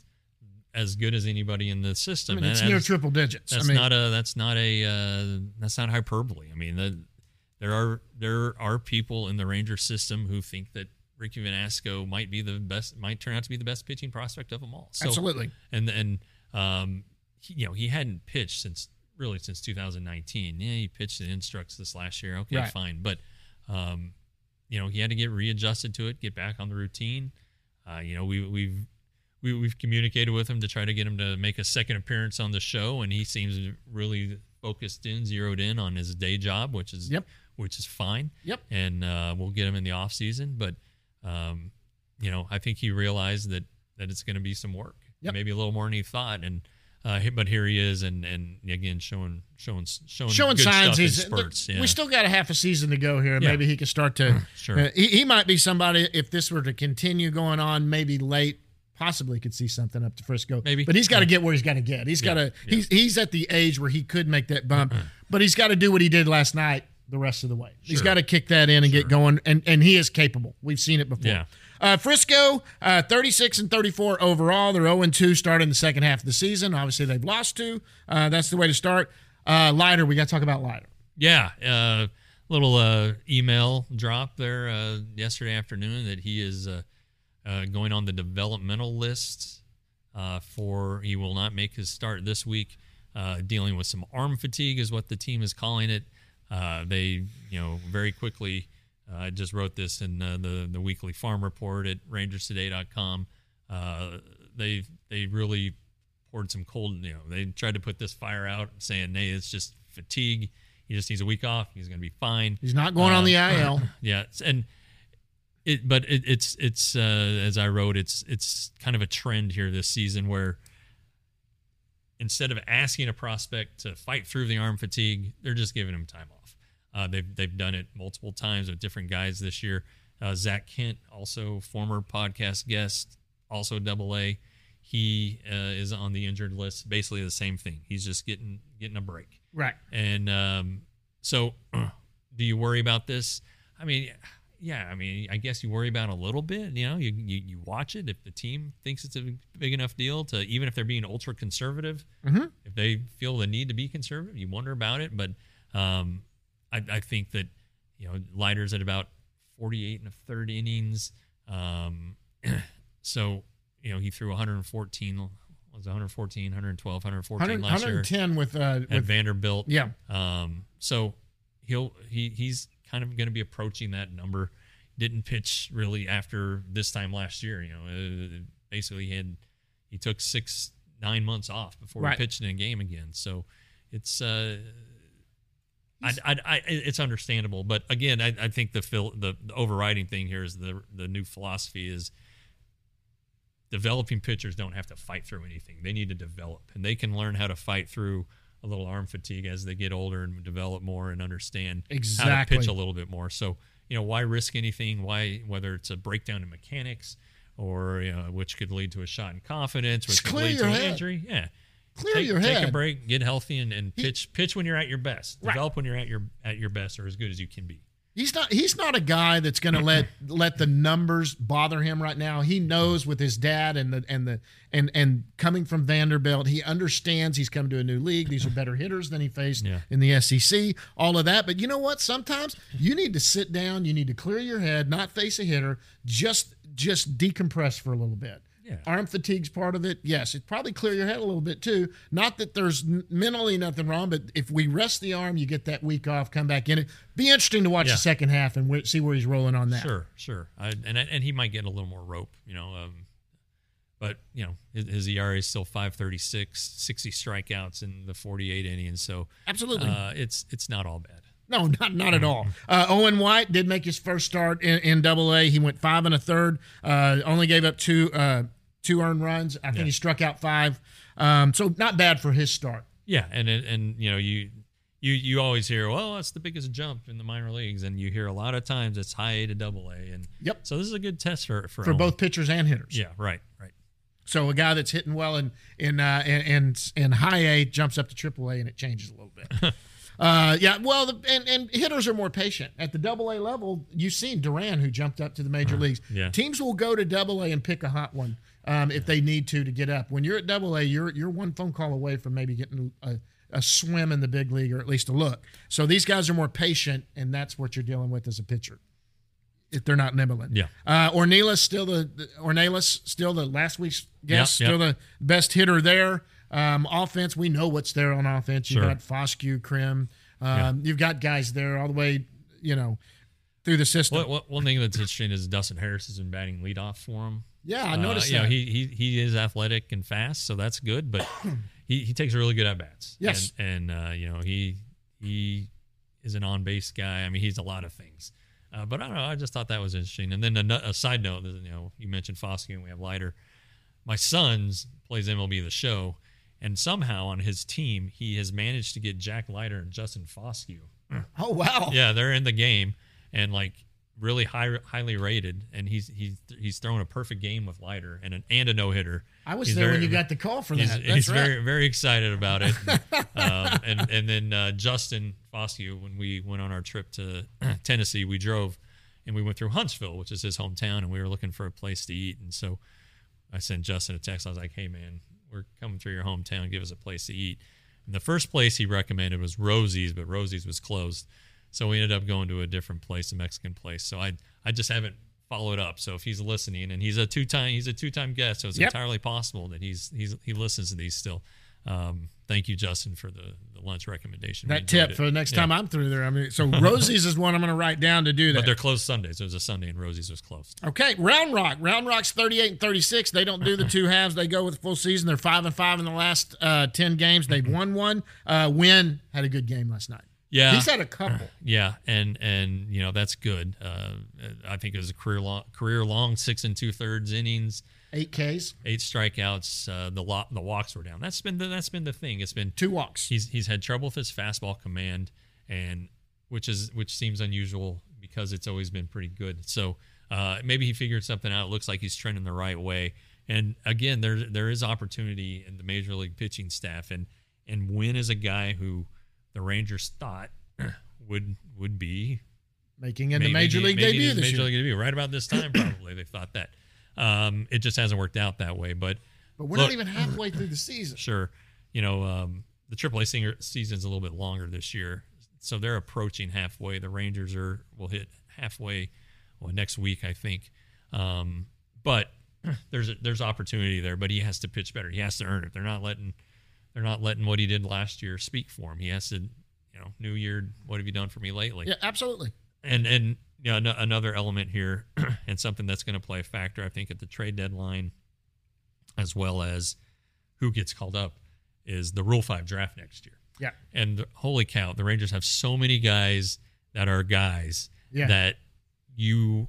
C: as good as anybody in the
B: I
C: system.
B: mean, it's
C: And
B: near
C: that's-
B: triple digits.
C: That's
B: I mean,
C: not a that's not a uh, that's not hyperbole. I mean, the, there are there are people in the Ranger system who think that Ricky Vanasco might be the best, might turn out to be the best pitching prospect of them all. So,
B: absolutely.
C: And and um, he, you know, he hadn't pitched since really since two thousand nineteen. Yeah, he pitched in Instructs this last year. Okay,
B: Right.
C: fine, but um, you know, he had to get readjusted to it, get back on the routine. Uh, you know, we we've we, we've communicated with him to try to get him to make a second appearance on the show, and he seems really focused in, zeroed in on his day job, which is
B: Yep.
C: which is fine.
B: Yep.
C: And uh, we'll get him in the off season, but um, you know, I think he realized that that it's going to be some work,
B: Yep.
C: maybe a little more than he thought, and uh, but here he is, and and again showing showing showing
B: Showing
C: good
B: signs
C: stuff in
B: he's
C: spurts. Yeah.
B: we still got a half a season to go here.
C: Yeah.
B: Maybe he can start to
C: Sure.
B: uh, he, he might be somebody, if this were to continue going on, maybe late, possibly could see something up to Frisco.
C: Maybe.
B: But he's got to
C: Yeah.
B: get where he's got to get. He's got
C: Yeah.
B: to he's he's at the age where he could make that bump, but he's got to do what he did last night the rest of the way. He's
C: Sure.
B: got to kick that in and
C: Sure.
B: get going, and and he is capable. We've seen it before.
C: Yeah.
B: Uh, Frisco, uh, thirty-six and thirty-four overall. They're oh and two starting the second half of the season. Obviously, they've lost two. Uh, that's the way to start. Uh, Leiter, we got to talk about Leiter.
C: Yeah, uh, little uh, email drop there uh, yesterday afternoon that he is uh, uh, going on the developmental list uh, for. He will not make his start this week. Uh, dealing with some arm fatigue is what the team is calling it. Uh, they, you know, very quickly. Uh, I just wrote this in uh, the the weekly farm report at Rangers Today dot com. Uh, they they really poured some cold. You know, they tried to put this fire out, saying, "Hey, it's just fatigue. He just needs a week off. He's going to be fine."
B: He's not going on
C: Um,
B: the I L.
C: Yeah, it's- and it, but it, it's it's uh, as I wrote, it's it's kind of a trend here this season where instead of asking a prospect to fight through the arm fatigue, they're just giving him time off. Uh, they've they've done it multiple times with different guys this year. Uh, Zach Kent, also former podcast guest, also Double A. He uh, is on the injured list. Basically the same thing. He's just getting getting a break.
B: Right.
C: And um, so, do you worry about this? I mean, yeah. I mean, I guess you worry about it a little bit. You know, you you, you watch it if the team thinks it's a big enough deal to, even if they're being ultra conservative,
B: Mhm.
C: if they feel the need to be conservative, you wonder about it. But um, I, I think that, you know, Leiter's at about forty-eight and a third innings. Um, so, you know, he threw one hundred fourteen. Was one fourteen, one twelve, one fourteen last year
B: one ten with uh
C: at
B: with
C: Vanderbilt.
B: yeah.
C: Um, so he'll he he's kind of going to be approaching that number. Didn't pitch really after this time last year. You know, uh, basically he had he took six nine months off before
B: Right.
C: he pitched in a game again. So it's uh, I, I, I it's understandable. But again, I, I think the, phil, the the overriding thing here is the the new philosophy is developing pitchers don't have to fight through anything. They need to develop, and they can learn how to fight through a little arm fatigue as they get older and develop more and understand how to
B: Exactly.
C: pitch a little bit more. So, you know, why risk anything? Why, whether it's a breakdown in mechanics or, you know, which could lead to a shot in confidence, which
B: Just
C: could
B: clear
C: lead
B: your
C: to an
B: head.
C: injury. Yeah.
B: Clear
C: take,
B: your
C: take
B: head.
C: a break, get healthy, and, and
B: He-
C: pitch pitch when you're at your best.
B: Right.
C: Develop when you're at your at your best or as good as you can be.
B: He's not. He's not a guy that's going to let let the numbers bother him right now. He knows with his dad and the and the and and coming from Vanderbilt, he understands he's come to a new league. These are better hitters than he faced
C: yeah.
B: in the S E C. All of that, but you know what? Sometimes you need to sit down. You need to clear your head, not face a hitter. Just just decompress for a little bit.
C: Yeah.
B: Arm fatigue's part of it. Yes, it probably clear your head a little bit too. Not that there's n- mentally nothing wrong, but if we rest the arm, you get that week off, come back in it. Be interesting to watch
C: yeah.
B: the second half and w- see where he's rolling on that.
C: Sure, sure. I, and and he might get a little more rope, you know. Um, but you know, his, his E R A is still five thirty-six, sixty strikeouts in the forty-eight innings. So
B: absolutely,
C: uh, it's it's not all bad.
B: No, not not at all. Uh, Owen White did make his first start in, in Double A. He went five and a third. Uh, only gave up two uh, two earned runs. I think
C: yeah.
B: he struck out five. Um, so not bad for his start.
C: Yeah, and and, and you know you. You you always hear, well, that's the biggest jump in the minor leagues, and you hear a lot of times it's high A to double A, and
B: yep.
C: So this is a good test for for,
B: for
C: Owen.
B: both pitchers and hitters.
C: Yeah, right, right.
B: So a guy that's hitting well in in uh, in, in high A jumps up to triple A, and it changes a little bit. uh, yeah, well, the, and and hitters are more patient at the double A level. You've seen Duran, who jumped up to the major uh, leagues.
C: Yeah.
B: Teams will go to double A and pick a hot one um, if they need to to get up. When you're at double A, you're you're one phone call away from maybe getting a a swim in the big league, or at least a look. So these guys are more patient, and that's what you're dealing with as a pitcher if they're not nibbling.
C: Yeah.
B: Uh, Ornelas still the, the Ornelas still the last week's guest,
C: yep,
B: still
C: yep.
B: the best hitter there. Um, offense, we know what's there on offense. You've
C: sure.
B: got Foscue, Krim. Um,
C: yeah.
B: You've got guys there all the way, you know, through the system.
C: What, what, one thing that's interesting is Dustin Harris has been batting leadoff for him.
B: Yeah, I noticed
C: uh,
B: that.
C: You know, he, he he is athletic and fast, so that's good. But he, he takes really good at bats.
B: Yes,
C: and, and uh, you know he he is an on base guy. I mean, he's a lot of things. Uh, but I don't know. I just thought that was interesting. And then a, a side note, you know, you mentioned Foscue and we have Leiter. My son's plays M L B The Show, and somehow on his team he has managed to get Jack Leiter and Justin Foscue.
B: Oh wow!
C: Yeah, they're in the game and like. Really high, highly rated, and he's he's he's thrown a perfect game with Leiter and an, and a no hitter.
B: I was
C: he's
B: there
C: very,
B: when you got the call for that.
C: He's,
B: That's
C: he's
B: right.
C: very very excited about it. um, and and then uh, Justin Foscue, when we went on our trip to Tennessee, we drove and we went through Huntsville, which is his hometown, and we were looking for a place to eat. And so I sent Justin a text. I was like, "Hey man, we're coming through your hometown. Give us a place to eat." And the first place he recommended was Rosie's, but Rosie's was closed. So we ended up going to a different place, a Mexican place. So I I just haven't followed up. So if he's listening, and he's a two time he's a two time guest, so it's
B: yep.
C: entirely possible that he's he's he listens to these still. Um, thank you, Justin, for the, the lunch recommendation.
B: That tip it. for the next
C: yeah.
B: time I'm through there. I mean, so Rosie's is one I'm going to write down to do that.
C: But they're closed Sundays. It was a Sunday, and Rosie's was closed.
B: Okay, Round Rock. Round Rock's thirty-eight and thirty-six. They don't do the two halves. They go with full season. They're five and five in the last uh, ten games. They've won one. Uh, Win had a good game last night.
C: Yeah,
B: he's had a couple.
C: Yeah, and and you know that's good. Uh, I think it was a career long, career long six and two thirds innings,
B: eight Ks,
C: eight strikeouts. Uh, the lo- the walks were down. That's been the, that's been the thing. It's been
B: two walks.
C: He's he's had trouble with his fastball command, and which is which seems unusual because it's always been pretty good. So uh, maybe he figured something out. It looks like he's trending the right way. And again, there there is opportunity in the major league pitching staff, and and Wynn is a guy who the Rangers thought would would be
B: making in the major league debut this
C: major
B: year.
C: league debut right about this time. Probably they thought that. Um, it just hasn't worked out that way. But
B: but we're
C: look,
B: not even halfway through the season.
C: Sure, you know um, the triple A season's a little bit longer this year, so they're approaching halfway. The Rangers are will hit halfway well, next week, I think. Um, but there's a, there's opportunity there. But he has to pitch better. He has to earn it. They're not letting. They're not letting what he did last year speak for him. He has to, you know, new year, what have you done for me lately?
B: Yeah, absolutely.
C: And, and you know, no, another element here and something that's going to play a factor, I think, at the trade deadline, as well as who gets called up, is the Rule five draft next year.
B: Yeah.
C: And holy cow, the Rangers have so many guys that are guys
B: yeah.
C: that you,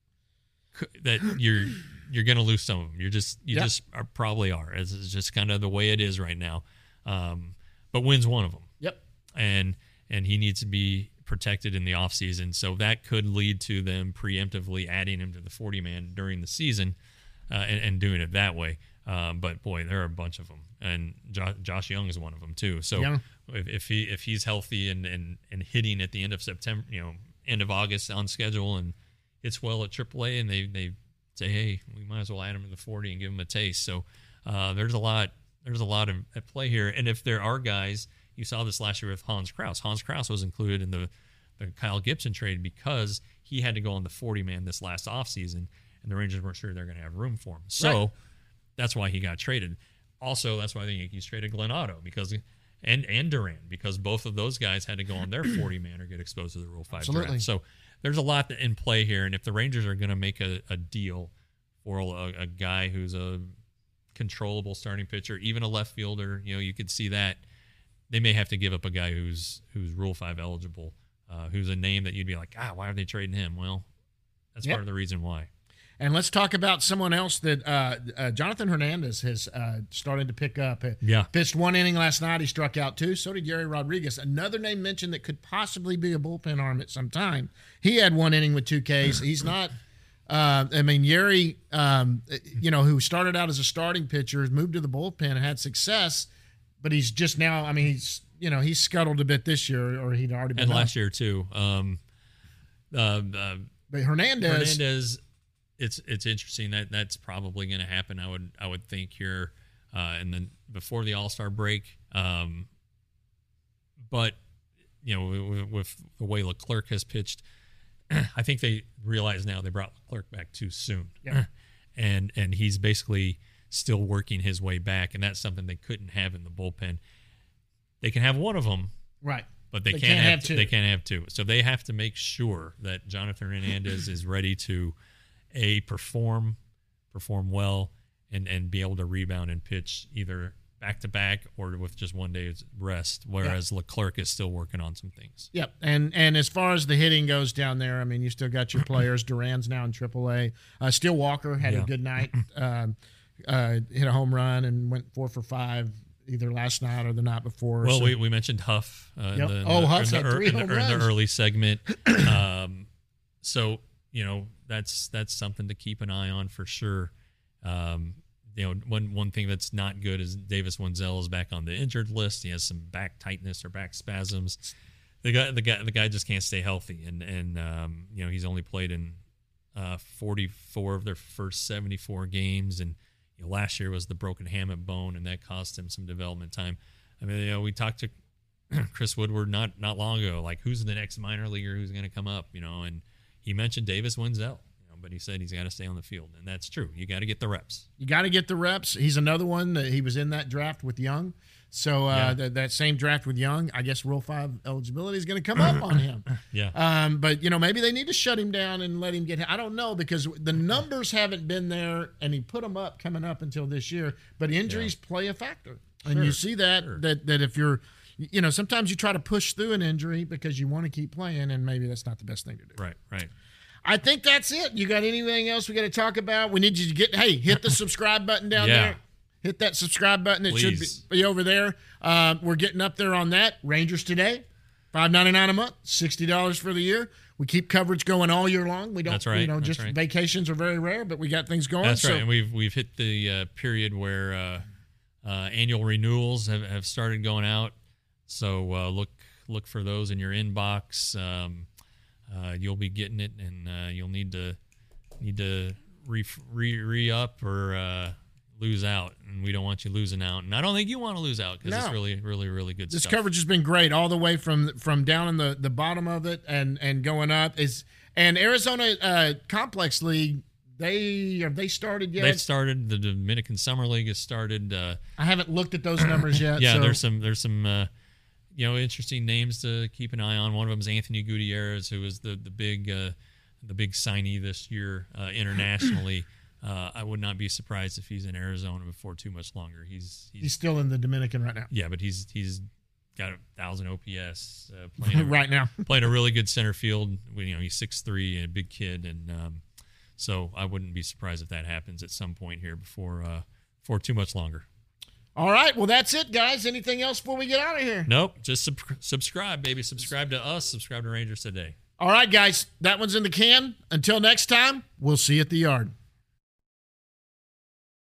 C: that you're, you're going to lose some of them. You're just, you
B: yep.
C: just are, probably are. It's just kind of the way it is right now. Um, but Wynn's one of them.
B: Yep.
C: And, and he needs to be protected in the offseason. So that could lead to them preemptively adding him to the forty man during the season uh, and, and doing it that way. Um, but boy, there are a bunch of them. And Josh, Josh Young is one of them too. So
B: yeah.
C: if, if he, if he's healthy and, and, and hitting at the end of September, you know, end of August on schedule and hits well at triple A, and they they say, hey, we might as well add him to the forty and give him a taste. So uh, there's a lot there's a lot of, at play here. And if there are guys, you saw this last year with Hans Kraus. Hans Kraus was included in the, the Kyle Gibson trade because he had to go on the forty man this last offseason, and the Rangers weren't sure they're going to have room for him. So right. That's why he got traded. Also, that's why the Yankees traded Glenn Otto because and and Duran, because both of those guys had to go on their forty man or get exposed to the Rule five
B: Absolutely.
C: draft. So there's a lot in play here, and if the Rangers are going to make a, a deal for a, a guy who's a controllable starting pitcher, even a left fielder, you know, you could see that they may have to give up a guy who's who's Rule five eligible, uh, who's a name that you'd be like, ah, why are they trading him? Well, that's yep. part of the reason why.
B: And let's talk about someone else that uh, uh, Jonathan Hernandez has uh, started to pick up.
C: Yeah.
B: Pitched one inning last night. He struck out two. So did Gary Rodriguez. Another name mentioned that could possibly be a bullpen arm at some time. He had one inning with two Ks. He's not uh, – I mean, Gary, um, you know, who started out as a starting pitcher, has moved to the bullpen and had success, but he's just now – I mean, he's – you know, he's scuttled a bit this year, or he'd already been
C: And
B: up.
C: last year, too. Um, uh, uh,
B: but Hernandez –
C: Hernandez – It's it's interesting that that's probably going to happen. I would I would think here, uh, and then before the All-Star break. Um, but you know, with, with the way Leclerc has pitched, I think they realize now they brought Leclerc back too soon,
B: yeah.
C: and and he's basically still working his way back, and that's something they couldn't have in the bullpen. They can have one of them,
B: right?
C: But they,
B: they
C: can't,
B: can't
C: have,
B: have two.
C: They can't have two. So they have to make sure that Jonathan Hernandez is ready to. A perform, perform well, and, and be able to rebound and pitch either back to back or with just one day's rest. Whereas yeah. Leclerc is still working on some things.
B: Yep, and and as far as the hitting goes down there, I mean, you still got your players. Duran's now in triple A. Uh, Steele Walker had
C: yeah.
B: a good night, uh, uh, hit a home run and went four for five either last night or the night before.
C: Well,
B: so.
C: we, we mentioned Huff. Uh,
B: Yep.
C: in the, in
B: oh,
C: the,
B: Huff's
C: in the,
B: had three
C: in the,
B: home
C: in
B: runs.
C: the early segment. um, so you know. That's that's something to keep an eye on for sure. Um, you know, one one thing that's not good is Davis Wenzel is back on the injured list. He has some back tightness or back spasms. The guy the guy the guy just can't stay healthy, and and um, you know he's only played in uh, forty-four of their first seventy-four games, and you know, last year was the broken hamate bone, and that cost him some development time. I mean, you know, we talked to Chris Woodward not not long ago, like who's the next minor leaguer who's going to come up, you know, and he mentioned Davis Wenzel, you know, but he said he's got to stay on the field, and that's true. You got to get the reps.
B: You got to get the reps. He's another one that he was in that draft with Young. So uh,
C: Yeah.
B: th- that same draft with Young, I guess Rule five eligibility is going to come up on him.
C: Yeah.
B: Um, but, you know, maybe they need to shut him down and let him get – I don't know, because the numbers haven't been there, and he put them up coming up until this year. But injuries
C: Yeah.
B: play a factor. And
C: Sure,
B: you see that,
C: sure.
B: that that if you're – you know, sometimes you try to push through an injury because you want to keep playing, and maybe that's not the best thing to do.
C: Right, right.
B: I think that's it. You got anything else we got to talk about? We need you to get, hey, hit the subscribe button down
C: Yeah.
B: there. Hit that subscribe button. It
C: Please.
B: should be, be over there. Uh, we're getting up there on that. Rangers Today, five ninety-nine a month, sixty dollars for the year. We keep coverage going all year long. We don't,
C: That's right,
B: you know,
C: that's
B: just
C: right.
B: vacations are very rare, but we got things going.
C: That's
B: so,
C: right. And we've we've hit the uh, period where uh, uh, annual renewals have, have started going out. So uh, look look for those in your inbox. Um, uh, you'll be getting it, and uh, you'll need to need to re re, re up or uh, lose out. And we don't want you losing out. And I don't think you want to lose out because
B: No.
C: it's really really really good
B: This
C: stuff.
B: coverage has been great all the way from from down in the, the bottom of it and, and going up. Is and Arizona uh, Complex League, they have they started yet?
C: They've started. The Dominican Summer League has started. Uh,
B: I haven't looked at those numbers yet.
C: yeah,
B: so.
C: there's some there's some uh, you know interesting names to keep an eye on. One of them is Anthony Gutierrez, who is the the big uh, the big signee this year uh, internationally. Uh, I would not be surprised if he's in Arizona before too much longer. He's he's,
B: He's still in the Dominican right now.
C: yeah, but he's he's got a thousand O P S uh, playing a,
B: right now.
C: playing a really good center field. You know, he's six three and a big kid, and um, so I wouldn't be surprised if that happens at some point here before uh, for too much longer.
B: All right. Well, that's it, guys. Anything else before we get out of here?
C: Nope, just sub- subscribe, baby. Subscribe to us. Subscribe to Rangers Today.
B: All right, guys. That one's in the can. Until next time, we'll see you at the yard.